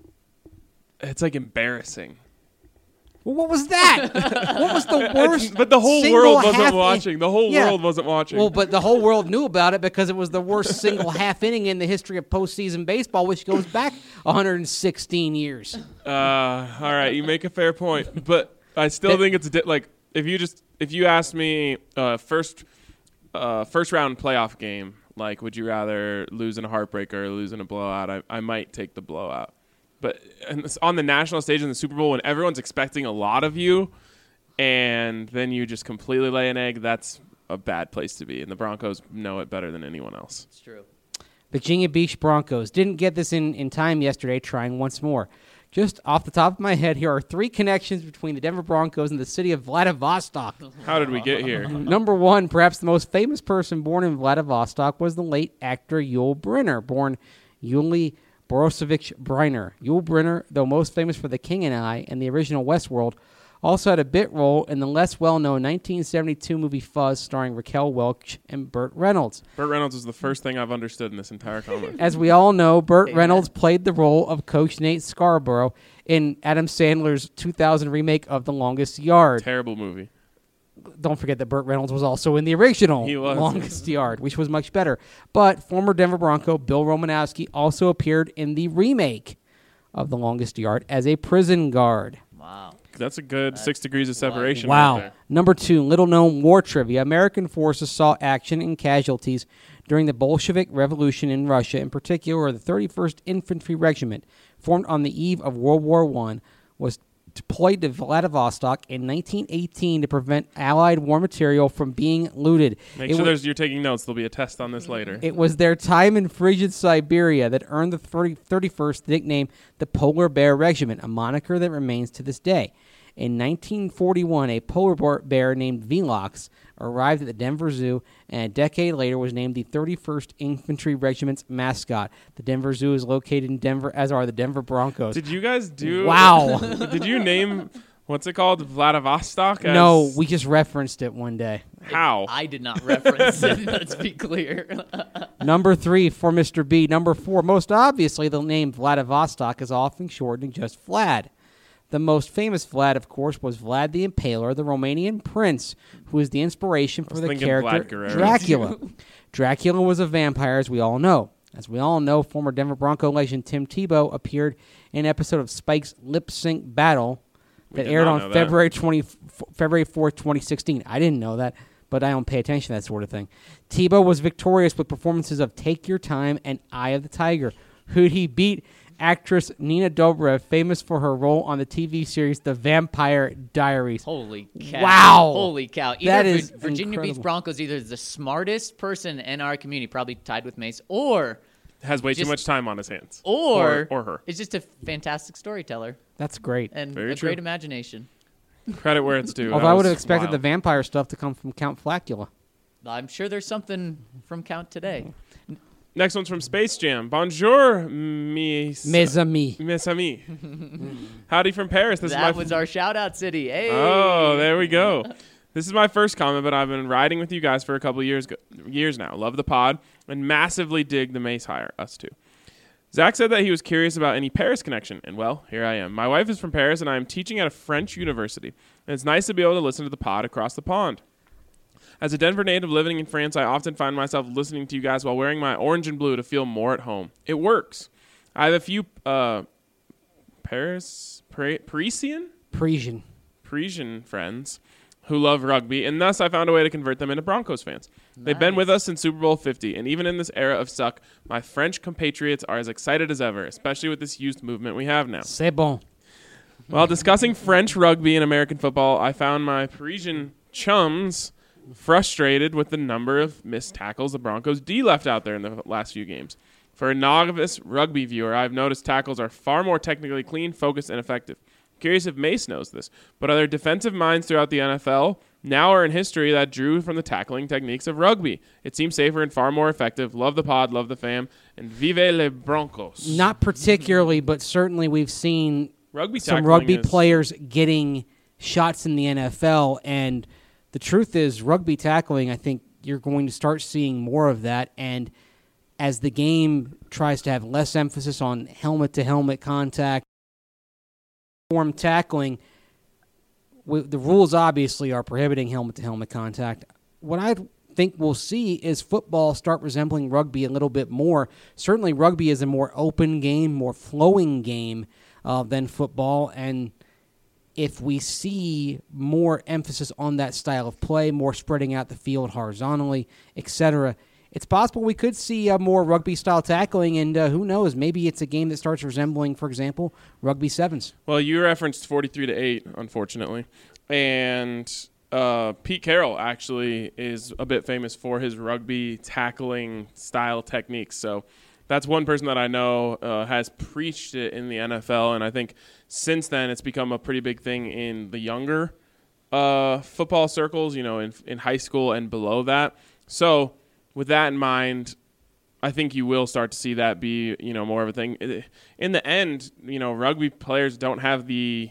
embarrassing. Well, what was that? What was the worst? But the whole single world wasn't half watching. The whole Yeah. world wasn't watching. Well, but the whole world knew about it because it was the worst single half inning in the history of postseason baseball, which goes back 116 years. All right, you make a fair point, but I still think it's like if you asked me first round playoff game, like would you rather lose in a heartbreaker or lose in a blowout? I might take the blowout. But on the national stage in the Super Bowl, when everyone's expecting a lot of you, and then you just completely lay an egg, that's a bad place to be. And the Broncos know it better than anyone else. It's true. Virginia Beach Broncos didn't get this in time yesterday, trying once more. Just off the top of my head, here are 3 connections between the Denver Broncos and the city of Vladivostok. How did we get here? Number 1, perhaps the most famous person born in Vladivostok was the late actor Yul Brynner, born Yuli Borosovich Brynner. Yul Brynner, though most famous for The King and I and the original Westworld, also had a bit role in the less well-known 1972 movie Fuzz starring Raquel Welch and Burt Reynolds. Burt Reynolds was the first thing I've understood in this entire comment. As we all know, Burt Reynolds played the role of Coach Nate Scarborough in Adam Sandler's 2000 remake of The Longest Yard. Terrible movie. Don't forget that Burt Reynolds was also in the original He was. Longest Yard, which was much better. But former Denver Bronco Bill Romanowski also appeared in the remake of The Longest Yard as a prison guard. Wow. That's a good 6 degrees of separation. Wow. Right there. Number 2, little-known war trivia. American forces saw action and casualties during the Bolshevik Revolution in Russia. In particular, the 31st Infantry Regiment, formed on the eve of World War I, was deployed to Vladivostok in 1918 to prevent Allied war material from being looted. Make It sure wa- you're taking notes. There'll be a test on this later. It was their time in frigid Siberia that earned the 31st the nickname the Polar Bear Regiment, a moniker that remains to this day. In 1941, a polar bear named Velox arrived at the Denver Zoo, and a decade later was named the 31st Infantry Regiment's mascot. The Denver Zoo is located in Denver, as are the Denver Broncos. Did you guys do? Wow. Did you name what's it called? Vladivostok? As No, we just referenced it one day. how? I did not reference it. Let's be clear. Number 3 for Mr. B. Number 4, most obviously, the name Vladivostok is often shortened to just Vlad. The most famous Vlad, of course, was Vlad the Impaler, the Romanian prince, who was the inspiration for the thinking character Vlad Guerrero. Dracula. Dracula was a vampire, as we all know. As we all know, former Denver Bronco legend Tim Tebow appeared in an episode of Spike's Lip Sync Battle that did aired not on know that. February 4th, 2016. I didn't know that, but I don't pay attention to that sort of thing. Tebow was victorious with performances of Take Your Time and Eye of the Tiger. Who'd he beat? Actress Nina Dobrev, famous for her role on the TV series The Vampire Diaries. Holy cow. Wow. Holy cow. Either That is Virginia Beach incredible. Broncos, either the smartest person in our community, probably tied with Mace, or Has way too Just- much time on his hands. or her. is just a fantastic storyteller That's great. and Very a true. great imagination. Credit where it's due. Although That I would have was expected the wild. vampire stuff to come from Count Flacula. I'm sure there's something from Count today. Next one's from Space Jam. Bonjour, mes Mes amis. amis. Howdy from Paris. This is my That was our shout out city. Hey. Oh, there we go. This is my first comment, but I've been riding with you guys for a couple of years now. Love the pod and massively dig the Mace hire. Us too. Zach said that he was curious about any Paris connection, and well, here I am. My wife is from Paris, and I am teaching at a French university, and it's nice to be able to listen to the pod across the pond. As a Denver native living in France, I often find myself listening to you guys while wearing my orange and blue to feel more at home. It works. I have a few Parisian friends who love rugby, and thus I found a way to convert them into Broncos fans. They've been with us since Super Bowl 50, and even in this era of suck, my French compatriots are as excited as ever, especially with this youth movement we have now. C'est bon. While discussing French rugby and American football, I found my Parisian chums frustrated with the number of missed tackles the Broncos D left out there in the last few games. For a novice rugby viewer, I've noticed tackles are far more technically clean, focused, and effective. Curious if Mace knows this, but are there defensive minds throughout the NFL now are in history that drew from the tackling techniques of rugby. It seems safer and far more effective. Love the pod, love the fam, and vive les Broncos. Not particularly, but certainly we've seen Rugby some tackling rugby is- players getting shots in the NFL, and the truth is rugby tackling, I think you're going to start seeing more of that, and as the game tries to have less emphasis on helmet-to-helmet contact, form tackling, the rules obviously are prohibiting helmet-to-helmet contact. What I think we'll see is football start resembling rugby a little bit more. Certainly rugby is a more open game, more flowing game than football, and if we see more emphasis on that style of play, more spreading out the field horizontally, etc., it's possible we could see more rugby-style tackling, and who knows, maybe it's a game that starts resembling, for example, rugby sevens. Well, you referenced 43-8, unfortunately. And Pete Carroll actually is a bit famous for his rugby tackling style techniques. So that's one person that I know has preached it in the NFL, and I think since then it's become a pretty big thing in the younger football circles, in high school and below that. So with that in mind, I think you will start to see that be, more of a thing. In the end, rugby players don't have the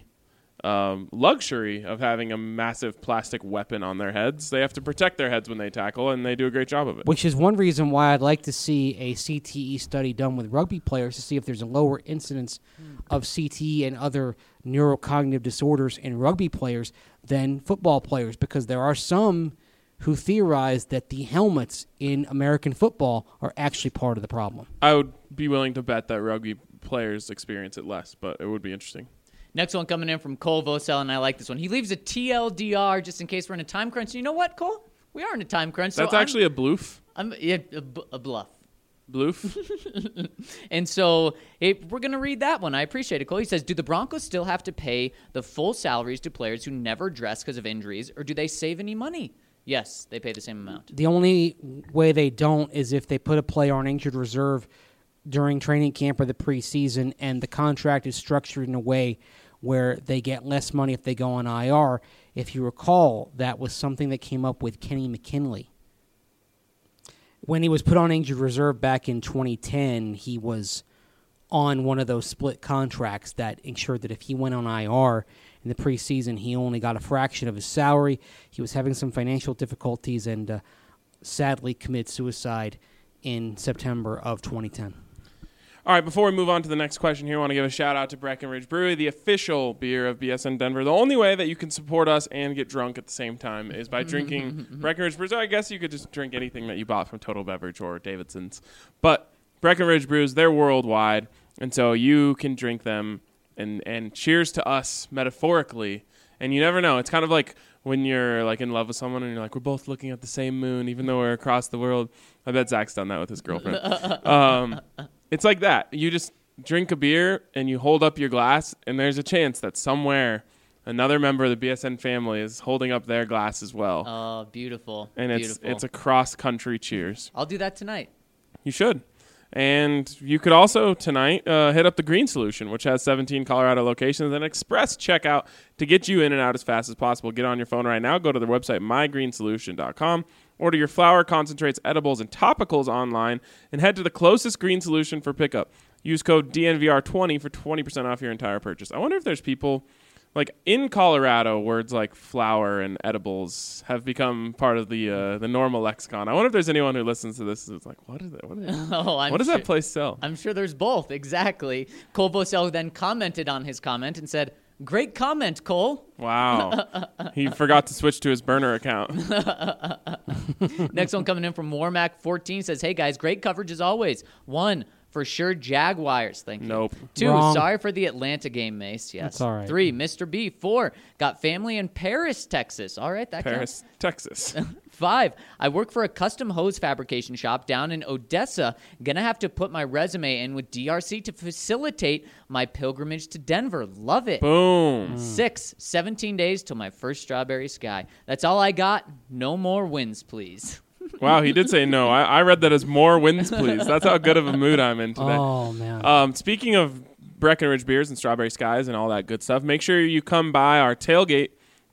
luxury of having a massive plastic weapon on their heads. They have to protect their heads when they tackle, and they do a great job of it. Which is one reason why I'd like to see a CTE study done with rugby players to see if there's a lower incidence of CTE and other neurocognitive disorders in rugby players than football players, because there are some who theorize that the helmets in American football are actually part of the problem. I would be willing to bet that rugby players experience it less, but it would be interesting. Next one coming in from Cole Vosell, and I like this one. He leaves a TLDR just in case we're in a time crunch. And you know what, Cole? We are in a time crunch. That's actually a bloof. A bluff. Bloof? And so we're going to read that one. I appreciate it, Cole. He says, do the Broncos still have to pay the full salaries to players who never dress because of injuries, or do they save any money? Yes, they pay the same amount. The only way they don't is if they put a player on injured reserve during training camp or the preseason, and the contract is structured in a way where they get less money if they go on IR. If you recall, that was something that came up with Kenny McKinley. When he was put on injured reserve back in 2010, he was on one of those split contracts that ensured that if he went on IR in the preseason, he only got a fraction of his salary. He was having some financial difficulties and sadly committed suicide in September of 2010. All right, before we move on to the next question here, I want to give a shout-out to Breckenridge Brewery, the official beer of BSN Denver. The only way that you can support us and get drunk at the same time is by drinking Breckenridge Brews. I guess you could just drink anything that you bought from Total Beverage or Davidson's. But Breckenridge Brews, they're worldwide, and so you can drink them, and cheers to us metaphorically. And you never know. It's kind of like when you're like in love with someone and you're like, we're both looking at the same moon, even though we're across the world. I bet Zach's done that with his girlfriend. It's like that. You just drink a beer and you hold up your glass, and there's a chance that somewhere another member of the BSN family is holding up their glass as well. Oh, beautiful. And beautiful. it's a cross-country cheers. I'll do that tonight. You should. And you could also tonight hit up the Green Solution, which has 17 Colorado locations and express checkout to get you in and out as fast as possible. Get on your phone right now. Go to their website, mygreensolution.com. Order your flower, concentrates, edibles, and topicals online, and head to the closest Green Solution for pickup. Use code DNVR20 for 20% off your entire purchase. I wonder if there's people, like in Colorado, words like flower and edibles have become part of the normal lexicon. I wonder if there's anyone who listens to this who's like, what is it? What does that place sell? I'm sure there's both, exactly. Cole Vosell then commented on his comment and said, great comment, Cole. Wow. He forgot to switch to his burner account. Next one coming in from Warmac14 says, hey, guys, great coverage as always. 1, for sure, Jaguars. Thank you. Nope. 2, Wrong. sorry for the Atlanta game, Mace. Yes. That's all right. 3, Mr. B. 4, got family in Paris, Texas. All right, that Paris, counts. Texas. 5, I work for a custom hose fabrication shop down in Odessa. Gonna have to put my resume in with DRC to facilitate my pilgrimage to Denver. Love it. Boom. 6, 17 days till my first Strawberry Sky. That's all I got. No more wins, please. Wow, he did say no. I read that as more wins, please. That's how good of a mood I'm in today. Oh, man. Speaking of Breckenridge beers and Strawberry Skies and all that good stuff, make sure you come by our tailgate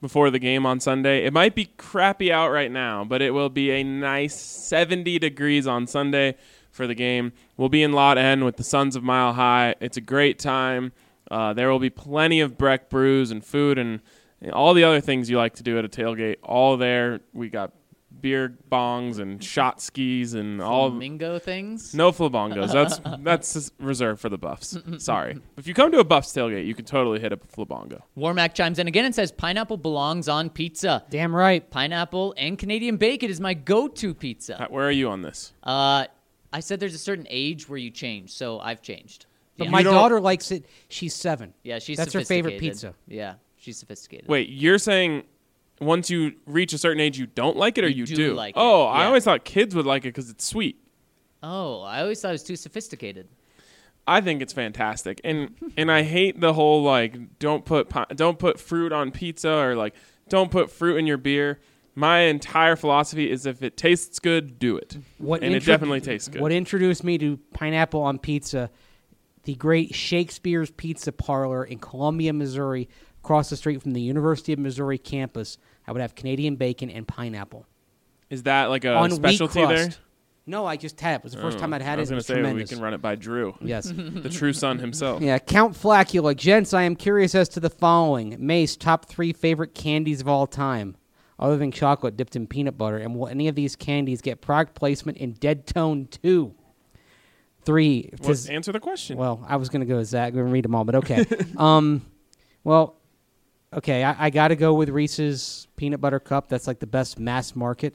before the game on Sunday. It might be crappy out right now, but it will be a nice 70 degrees on Sunday for the game. We'll be in Lot N with the Sons of Mile High. It's a great time. There will be plenty of Breck brews and food and all the other things you like to do at a tailgate. All there. We got beer bongs and shot skis and all. Flamingo things? No flabongos. That's reserved for the Buffs. Sorry. If you come to a Buffs tailgate, you can totally hit up a flabongo. Warmack chimes in again and says, pineapple belongs on pizza. Damn right. Pineapple and Canadian bacon is my go-to pizza. Where are you on this? I said there's a certain age where you change, so I've changed. But Yeah. my You don't- daughter likes it. She's 7. Yeah, she's That's her favorite sophisticated. pizza. Yeah, she's sophisticated. Wait, you're saying once you reach a certain age, you don't like it, or you do do? like it, Oh, I yeah. always thought kids would like it because it's sweet. Oh, I always thought it was too sophisticated. I think it's fantastic, and I hate the whole like don't put fruit on pizza or like don't put fruit in your beer. My entire philosophy is if it tastes good, do it, and it definitely tastes good. What introduced me to pineapple on pizza, the great Shakespeare's Pizza Parlor in Columbia, Missouri, across the street from the University of Missouri campus. I would have Canadian bacon and pineapple. Is that like a on wheat specialty there? crust. No, I just had it. It was the first time I'd had I was it. It going was to say tremendous. we can run it by Drew, Yes. the true son himself. Yeah, Count Flacula. Gents, I am curious as to the following. Mace, top 3 favorite candies of all time, other than chocolate dipped in peanut butter. And will any of these candies get product placement in Dead Tone 2? 3. Answer the question. Well, I was going to go with Zach. I'm going to read them all, but okay. Well, okay, I got to go with Reese's Peanut Butter Cup. That's like the best mass market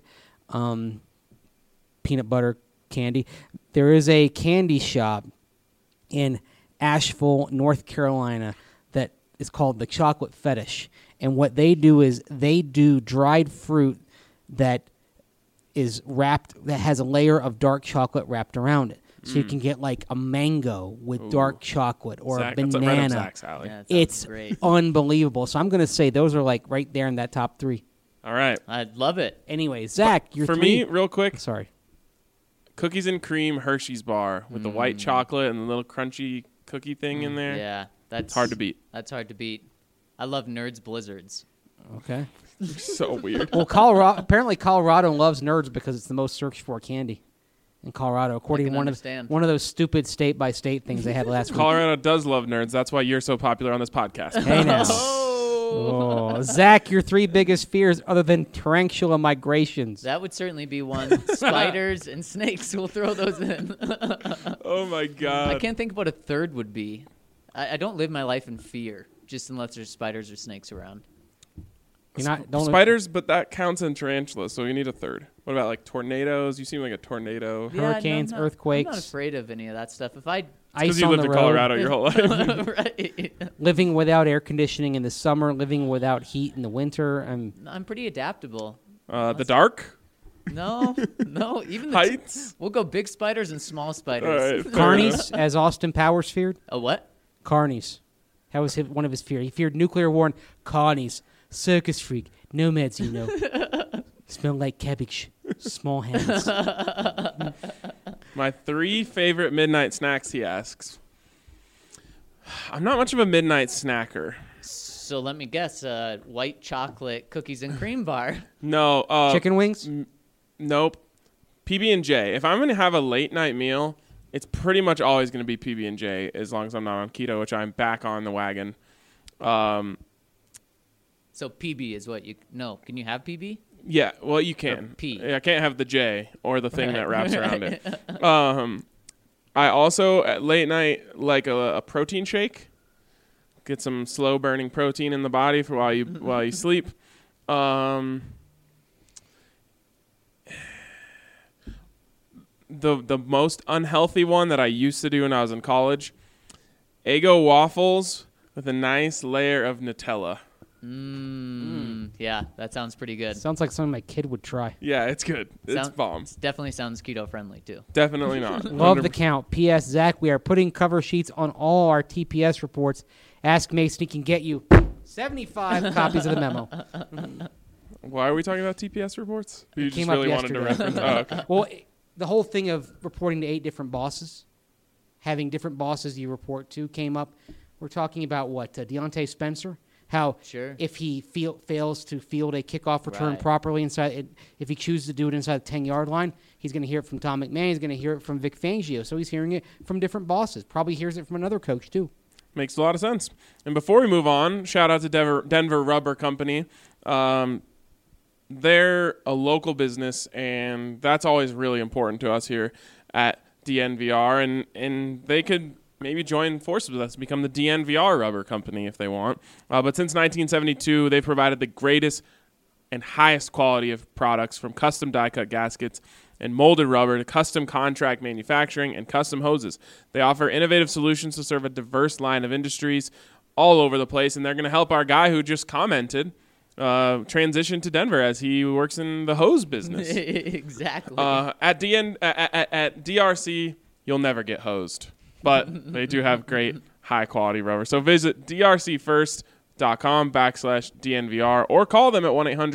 peanut butter candy. There is a candy shop in Asheville, North Carolina that is called the Chocolate Fetish. And what they do is they do dried fruit that is wrapped, that has a layer of dark chocolate wrapped around it. So you can get like a mango with dark chocolate or Zach, a that's banana. right up Zach's alley. Yeah, that sounds It's great. unbelievable. So I'm going to say those are like right there in that top 3. All right. I'd love it. Anyway, Zach, you're For me, real quick, Sorry. cookies and cream Hershey's bar with the white chocolate and the little crunchy cookie thing in there. Yeah, that's It's hard to beat. That's hard to beat. I love Nerds Blizzards. Okay. So weird. Well, Colorado loves Nerds because it's the most searched for candy in Colorado, according I to can one understand. of those stupid state by state things they had last week. Colorado does love nerds. That's why you're so popular on this podcast. Hey now. Oh, Oh, Zach, your 3 biggest fears other than tarantula migrations. that would certainly be one. Spiders and snakes. We'll throw those in. Oh my I god. can't think what a third would be. I don't live my life in fear, just unless there's spiders or snakes around. Don't Spiders, but that counts in tarantulas, so you need a third. What about like tornadoes? You seem like a tornado. Yeah, Hurricanes, I'm not earthquakes. afraid of any of that stuff. If I Because ice you on lived the in road, Colorado your whole life. right. living without air conditioning in the summer, living without heat in the winter. I'm pretty adaptable. The dark? No, even the Heights? we'll go big spiders and small All spiders. right. fair enough. Carnies, as Austin Powers feared. A what? Carnies. That was one of his fears. He feared nuclear war and carnies. Circus freak. Nomads, you know. Smell like cabbage. Small hands. My 3 favorite midnight snacks, he asks. I'm not much of a midnight snacker. So let me guess. White chocolate cookies and cream bar. No. Chicken wings? Nope. PB&J. If I'm going to have a late night meal, it's pretty much always going to be PB&J as long as I'm not on keto, which I'm back on the wagon. So PB is what you no. Can you have PB? Yeah, well, you can. P. I can't have the J or the thing Right. that wraps around it. I also, at late night, like a protein shake. Get some slow-burning protein in the body for while you sleep. The most unhealthy one that I used to do when I was in college, Eggo waffles with a nice layer of Nutella. Yeah, that sounds pretty good. Sounds like something my kid would try. Yeah, it's good. It's bomb. Definitely sounds keto friendly too. Definitely not. Love the 100%. count. P.S. Zach, we are putting cover sheets on all our TPS reports. Ask Mason, he can get you 75 copies of the memo. Why are we talking about TPS reports? You just came up really wanted to yesterday. reference. Oh, okay. Well, the whole thing of reporting to 8 different bosses, having different bosses you report to, came up. We're talking about what? Deontay Spencer? How Sure. if he fails to field a kickoff return Right. properly if he chooses to do it inside the 10-yard line, he's going to hear it from Tom McMahon. He's going to hear it from Vic Fangio. So he's hearing it from different bosses. Probably hears it from another coach too. Makes a lot of sense. And before we move on, shout out to Denver Rubber Company. They're a local business, and that's always really important to us here at DNVR. And they could maybe join forces with us to become the DNVR Rubber Company if they want. But since 1972, they've provided the greatest and highest quality of products, from custom die-cut gaskets and molded rubber to custom contract manufacturing and custom hoses. They offer innovative solutions to serve a diverse line of industries all over the place, and they're going to help our guy who just commented transition to Denver as he works in the hose business. Exactly. At DRC, you'll never get hosed, but they do have great high-quality rubber. So visit drcfirst.com/DNVR or call them at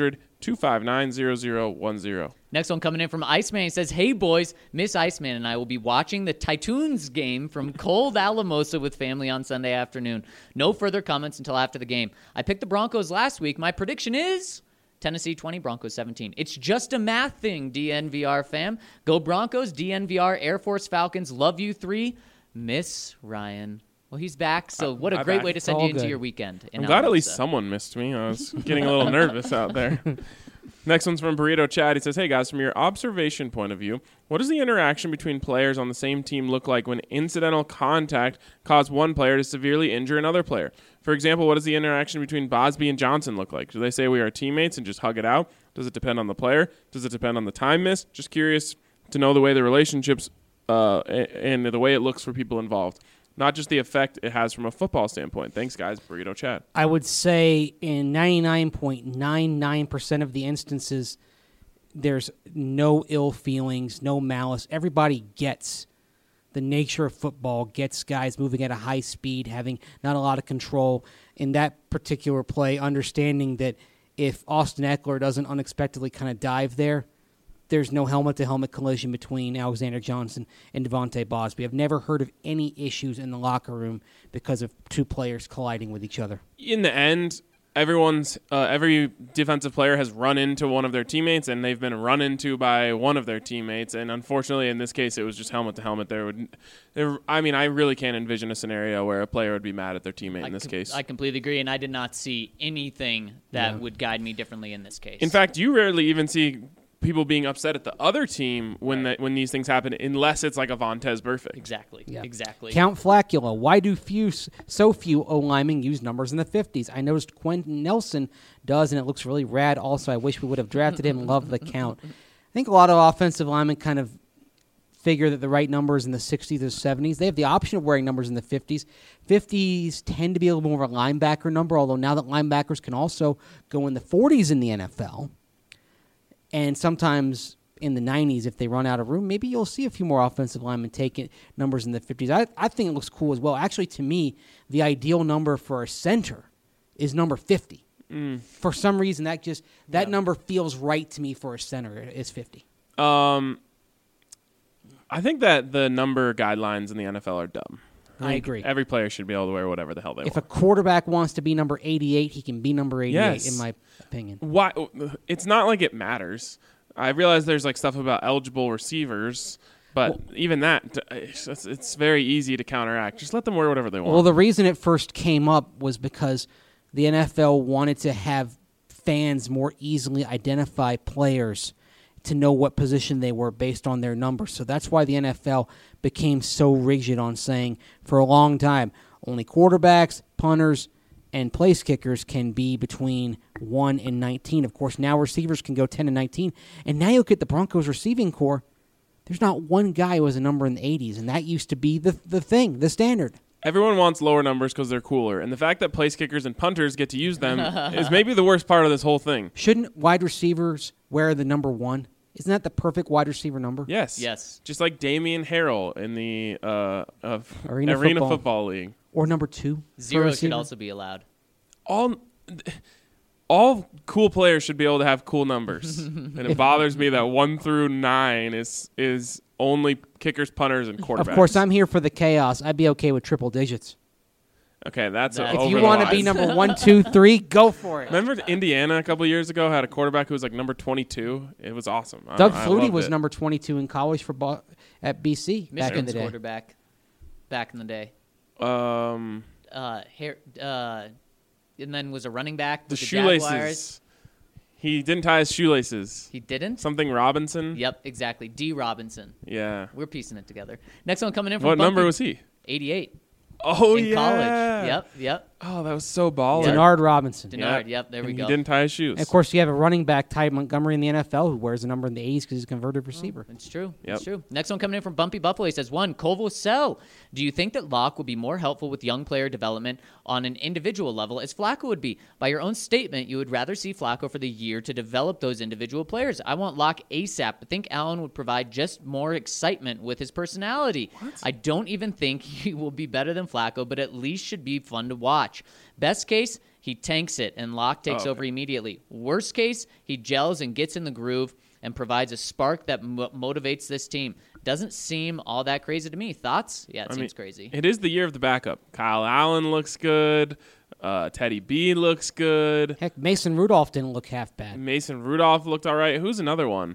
1-800-259-0010. Next one coming in from Iceman. He says, "Hey boys, Miss Iceman and I will be watching the Titans game from cold Alamosa with family on Sunday afternoon. No further comments until after the game. I picked the Broncos last week. My prediction is Tennessee 20, Broncos 17. It's just a math thing, DNVR fam. Go Broncos, DNVR, Air Force Falcons. Love you 3. Miss Ryan." Well, he's back, so what a I'm great back. way to send All you into good. your weekend. I'm glad at least someone missed me. I was getting a little nervous out there. Next one's from Burrito Chad. He says, "Hey guys, from your observation point of view, what does the interaction between players on the same team look like when incidental contact caused one player to severely injure another player? For example, what does the interaction between Bosby and Johnson look like? Do they say we are teammates and just hug it out? Does it depend on the player? Does it depend on the time missed? Just curious to know the way the relationships and the way it looks for people involved. Not just the effect it has from a football standpoint. Thanks, guys. Burrito Chad." I would say in 99.99% of the instances, there's no ill feelings, no malice. Everybody gets the nature of football, gets guys moving at a high speed, having not a lot of control. In that particular play, understanding that if Austin Eckler doesn't unexpectedly kind of dive there, there's no helmet-to-helmet collision between Alexander Johnson and Devontae Bosby. I've never heard of any issues in the locker room because of two players colliding with each other. In the end, every defensive player has run into one of their teammates, and they've been run into by one of their teammates. And unfortunately, in this case, it was just helmet to helmet. I really can't envision a scenario where a player would be mad at their teammate in this case. I completely agree, and I did not see anything that would guide me differently in this case. In fact, you rarely even see people being upset at the other team when these things happen, unless it's like a Vontez Burfict. Exactly. Yeah. Exactly. Count Flacula. Why do so few O-linemen use numbers in the 50s? I noticed Quentin Nelson does, and it looks really rad. Also, I wish we would have drafted him. Love the count. I think a lot of offensive linemen kind of figure that the right number is in the 60s or 70s. They have the option of wearing numbers in the 50s. 50s tend to be a little more of a linebacker number, although now that linebackers can also go in the 40s in the NFL. And sometimes in the 90s, if they run out of room, maybe you'll see a few more offensive linemen taking numbers in the 50s. I think it looks cool as well. Actually, to me, the ideal number for a center is number 50. For some reason, that number feels right to me for a center is 50. I think that the number guidelines in the NFL are dumb. I agree. Every player should be able to wear whatever the hell they If want. a quarterback wants to be number 88, he can be number 88, Yes. in my opinion. Why? It's not like it matters. I realize there's like stuff about eligible receivers, but even that, it's very easy to counteract. Just let them wear whatever they want. Well, the reason it first came up was because the NFL wanted to have fans more easily identify players to know what position they were based on their numbers. So that's why the NFL became so rigid on saying for a long time, only quarterbacks, punters, and place kickers can be between 1 and 19. Of course, now receivers can go 10 and 19. And now you look at the Broncos receiving core, there's not one guy who has a number in the 80s, and that used to be the thing, the standard. Everyone wants lower numbers because they're cooler, and the fact that place kickers and punters get to use them is maybe the worst part of this whole thing. Shouldn't wide receivers wear the number 1? Isn't that the perfect wide receiver number? Yes. Yes. Just like Damian Harrell in the Arena Arena Football. Football League. Or number 2? for a 0 should receiver? also be allowed. All cool players should be able to have cool numbers, and it bothers me that 1 through 9 is only kickers, punters, and quarterbacks. Of course, I'm here for the chaos. I'd be okay with triple digits. Okay, that's If over If you the want to line. be number 1, 2, 3, go for it. Remember Indiana a couple years ago had a quarterback who was like number 22? It was awesome. Doug I Flutie loved was it. number 22 in college at BC back in Michigan's the day. quarterback back in the day. Um, And then was a running back the with the Jaguars. shoelaces. He didn't tie his shoelaces. He didn't? Something Robinson. Yep, exactly. D. Robinson. Yeah. We're piecing it together. Next one coming in from What number Bumpy. was he? 88 Oh in yeah. college. Yep. Oh, that was so baller. Denard Robinson. Denard, yep, there we And go. He didn't tie his shoes. And of course, you have a running back, Ty Montgomery, in the NFL, who wears a number in the 80s because he's a converted receiver. It's true. Yep. It's true. Next one coming in from Bumpy Buffalo. He says, 1, Koval Sell. Do you think that Locke will be more helpful with young player development on an individual level as Flacco would be? By your own statement, you would rather see Flacco for the year to develop those individual players. I want Locke ASAP, but think Allen would provide just more excitement with his personality. I don't even think he will be better than Flacco, but at least should be fun to watch. Best case, he tanks it and Locke takes over immediately. Worst case, he gels and gets in the groove and provides a spark that motivates this team. Doesn't seem all that crazy to me. Thoughts? Yeah, it seems crazy. It is the year of the backup. Kyle Allen looks good. Teddy B looks good. Heck, Mason Rudolph didn't look half bad. Mason Rudolph looked all right. Who's another one?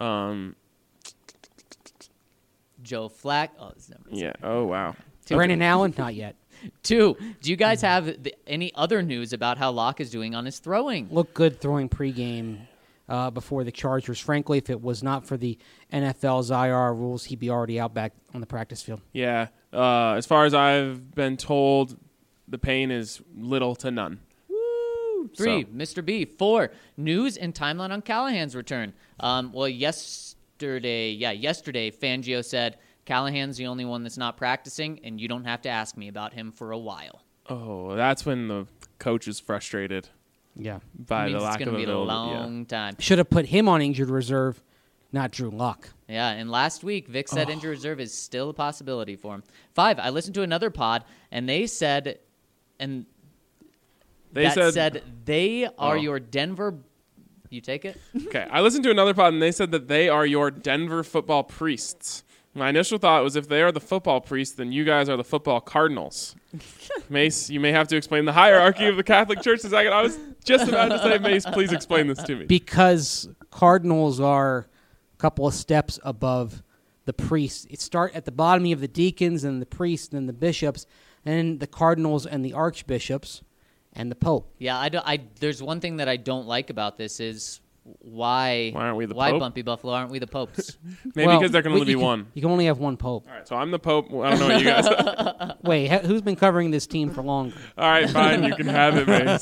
Joe Flack. Oh, this number. Yeah. Oh, wow. Brandon Allen, not yet. 2, do you guys have any other news about how Locke is doing on his throwing? Looked good throwing pregame before the Chargers. Frankly, if it was not for the NFL's IR rules, he'd be already out back on the practice field. Yeah. As far as I've been told, the pain is little to none. 3, So- Mr. B. 4, news and timeline on Callahan's return. Yesterday, Fangio said Callahan's the only one that's not practicing, and you don't have to ask me about him for a while. Oh, that's when the coach is frustrated Yeah. by It the means lack it's of going to be a availability. long time. Should have put him on injured reserve, not Drew Lock. Yeah, and last week, Vic said injury reserve is still a possibility for him. 5, I listened to another pod, and they said, and They said they are Oh. your Denver. You take it? Okay, I listened to another pod, and they said that they are your Denver football priests. My initial thought was if they are the football priests, then you guys are the football Cardinals. Mace, you may have to explain the hierarchy of the Catholic Church in a second. I was just about to say, Mace, please explain this to me. Because Cardinals are a couple of steps above the priests. It start at the bottom of the deacons and the priests and the bishops, and the Cardinals and the archbishops and the Pope. Yeah, there's one thing that I don't like about this is why aren't we the why Pope? Bumpy Buffalo aren't we the popes? Maybe Well, because there can only be you one. You can only have one Pope. All right, so I'm the Pope. Well, I don't know what you guys are. Wait, who's been covering this team for longer? All right, fine, you can have it, Mace.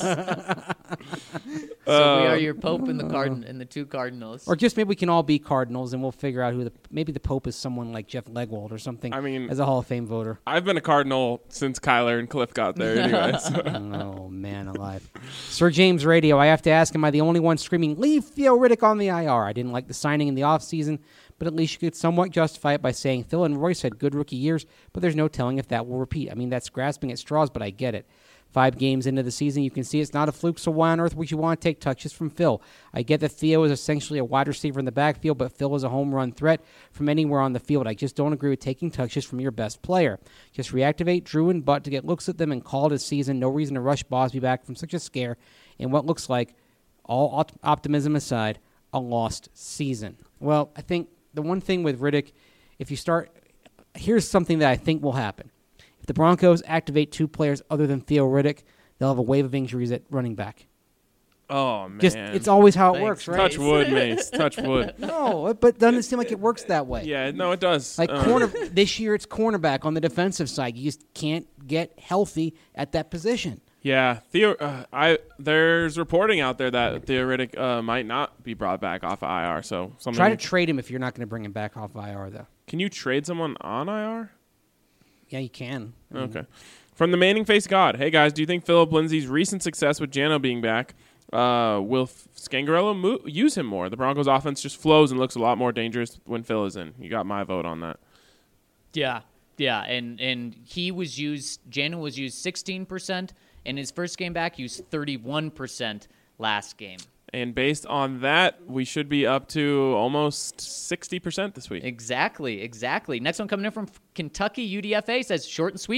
So we are your pope and the 2 cardinals. Or just maybe we can all be Cardinals, and we'll figure out who maybe the Pope is someone like Jeff Legwold or something. I mean- as a Hall of Fame voter. I've been a Cardinal since Kyler and Cliff got there anyway. So. Oh, man alive. Sir James Radio, I have to ask, am I the only one screaming, leave Theo Riddick on the IR? I didn't like the signing in the offseason, but at least you could somewhat justify it by saying Phil and Royce had good rookie years, but there's no telling if that will repeat. I mean, that's grasping at straws, but I get it. 5 games into the season, you can see it's not a fluke, so why on earth would you want to take touches from Phil? I get that Theo is essentially a wide receiver in the backfield, but Phil is a home run threat from anywhere on the field. I just don't agree with taking touches from your best player. Just reactivate Drew and Butt to get looks at them and call it a season. No reason to rush Bosby back from such a scare in what looks like, all optimism aside, a lost season. Well, I think the one thing with Riddick, here's something that I think will happen. If the Broncos activate 2 players other than Theo Riddick, they'll have a wave of injuries at running back. Oh, man. It's always how it Thanks, works, right? Touch wood, Mace. Touch wood. No, but doesn't it seem like it works that way? Yeah, no, it does. Like this year, it's cornerback on the defensive side. You just can't get healthy at that position. Yeah, there's reporting out there that Theo Riddick might not be brought back off of IR. So Try to trade him if you're not going to bring him back off IR, though. Can you trade someone on IR? Yeah, you can. Okay. From the Manning Face God. Hey, guys, do you think Philip Lindsay's recent success with Jano being back will Scangarello use him more? The Broncos' offense just flows and looks a lot more dangerous when Phil is in. You got my vote on that. Yeah, and he was used. Jano was used 16%, and his first game back used 31% last game. And based on that, we should be up to almost 60% this week. Exactly. Next one coming in from Kentucky UDFA says, short and sweet.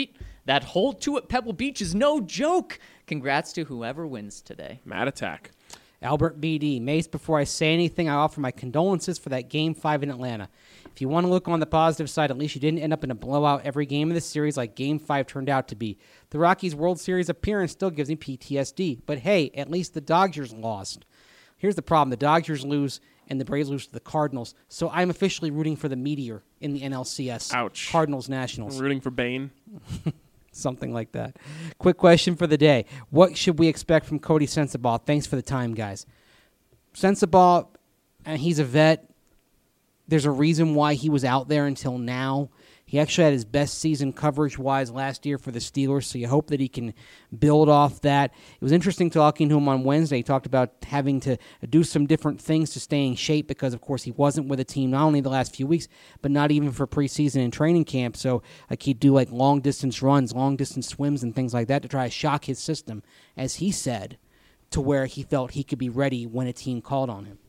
That hole 2 at Pebble Beach is no joke. Congrats to whoever wins today. Mad Attack. Albert BD. Mace, before I say anything, I offer my condolences for that Game 5 in Atlanta. If you want to look on the positive side, at least you didn't end up in a blowout every game of the series like Game 5 turned out to be. The Rockies' World Series appearance still gives me PTSD. But hey, at least the Dodgers lost. Here's the problem. The Dodgers lose and the Braves lose to the Cardinals. So I'm officially rooting for the Meteor in the NLCS. Ouch. Cardinals-Nationals. I'm rooting for Bane. Something like that. Quick question for the day. What should we expect from Cody Sensabaugh? Thanks for the time, guys. Sensabaugh, and he's a vet. There's a reason why he was out there until now. He actually had his best season coverage-wise last year for the Steelers, so you hope that he can build off that. It was interesting talking to him on Wednesday. He talked about having to do some different things to stay in shape because, of course, he wasn't with the team not only the last few weeks, but not even for preseason and training camp. So like he'd do like long-distance runs, long-distance swims, and things like that to try to shock his system, as he said, to where he felt he could be ready when a team called on him.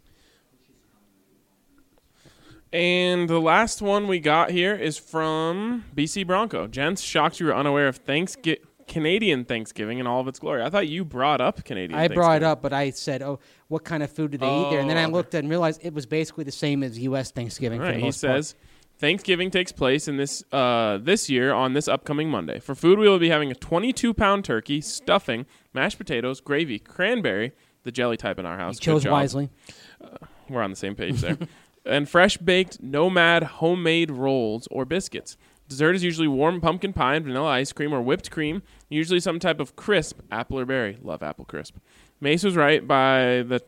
And the last one we got here is from BC Bronco. Gents, shocked you were unaware of Canadian Thanksgiving in all of its glory. I thought you brought up Canadian Thanksgiving. I brought it up, but I said, oh, what kind of food do they eat there? And then I looked and realized it was basically the same as U.S. Thanksgiving. Right, for the he most part. says, Thanksgiving takes place in this year on this upcoming Monday. For food, we will be having a 22-pound turkey, stuffing, mashed potatoes, gravy, cranberry, the jelly type in our house. You chose Good job. wisely. We're on the same page there. And fresh-baked Nomad homemade rolls or biscuits. Dessert is usually warm pumpkin pie and vanilla ice cream or whipped cream, usually some type of crisp, apple or berry. Love apple crisp. Mace was right by the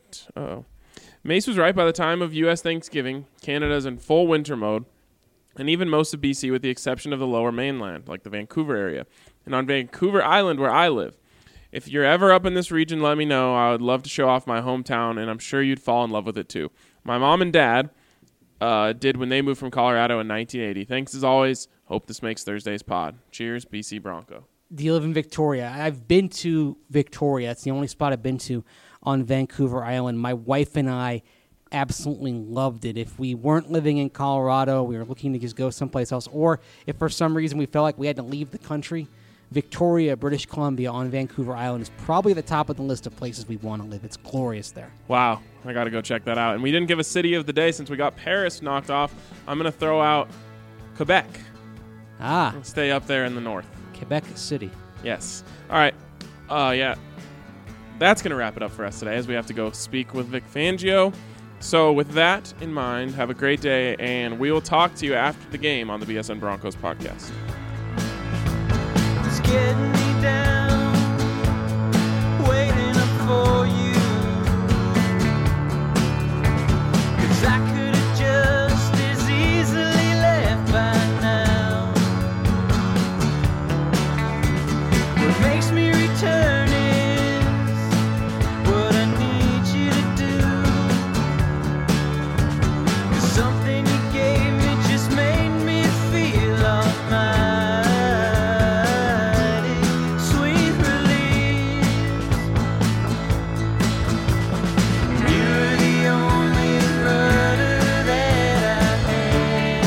time of U.S. Thanksgiving. Canada's in full winter mode, and even most of BC with the exception of the lower mainland, like the Vancouver area. And on Vancouver Island, where I live. If you're ever up in this region, let me know. I would love to show off my hometown, and I'm sure you'd fall in love with it too. My mom and dad did when they moved from Colorado in 1980. Thanks as always. Hope this makes Thursday's pod. Cheers, BC Bronco. Do you live in Victoria? I've been to Victoria. It's the only spot I've been to on Vancouver Island. My wife and I absolutely loved it. If we weren't living in Colorado, we were looking to just go someplace else, or if for some reason we felt like we had to leave the country, Victoria, British Columbia on Vancouver Island is probably at the top of the list of places we want to live. It's glorious there. Wow, I got to go check that out. And we didn't give a city of the day since we got Paris knocked off. I'm going to throw out Quebec. Stay up there in the north. Quebec City. Yes. All right. Yeah. That's going to wrap it up for us today as we have to go speak with Vic Fangio. So with that in mind, have a great day, and we will talk to you after the game on the BSN Broncos podcast. It's getting me down, waiting up for you. 'Cause I could have just as easily left by now. What makes me return is what I need you to do. 'Cause something you gave me just made me feel almighty. Sweet release. You're the only rudder that I had.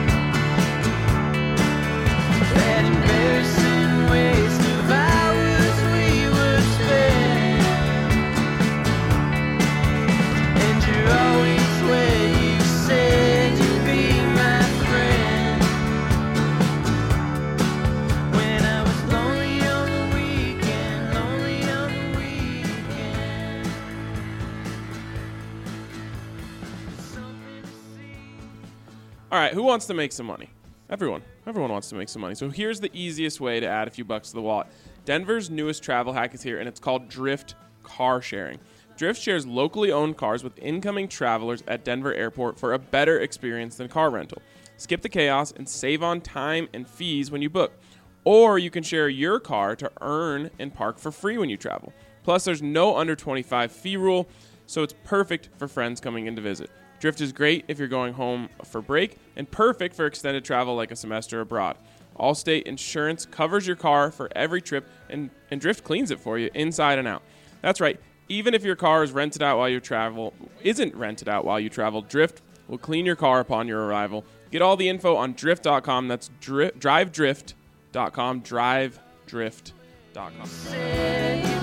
That embarrassing waste of hours we would spend. And you're always where you said you'd be my friend. When I was lonely on the weekend, lonely on the weekend. Something to see. All right, who wants to make some money? Everyone. Everyone wants to make some money. So here's the easiest way to add a few bucks to the wallet. Denver's newest travel hack is here, and it's called Drift Car Sharing. Drift shares locally owned cars with incoming travelers at Denver Airport for a better experience than car rental. Skip the chaos and save on time and fees when you book. Or you can share your car to earn and park for free when you travel. Plus, there's no under 25 fee rule, so it's perfect for friends coming in to visit. Drift is great if you're going home for break and perfect for extended travel like a semester abroad. Allstate Insurance covers your car for every trip, and Drift cleans it for you inside and out. That's right. Even if your car is isn't rented out while you travel, Drift will clean your car upon your arrival. Get all the info on drift.com. That's drivedrift.com. drivedrift.com.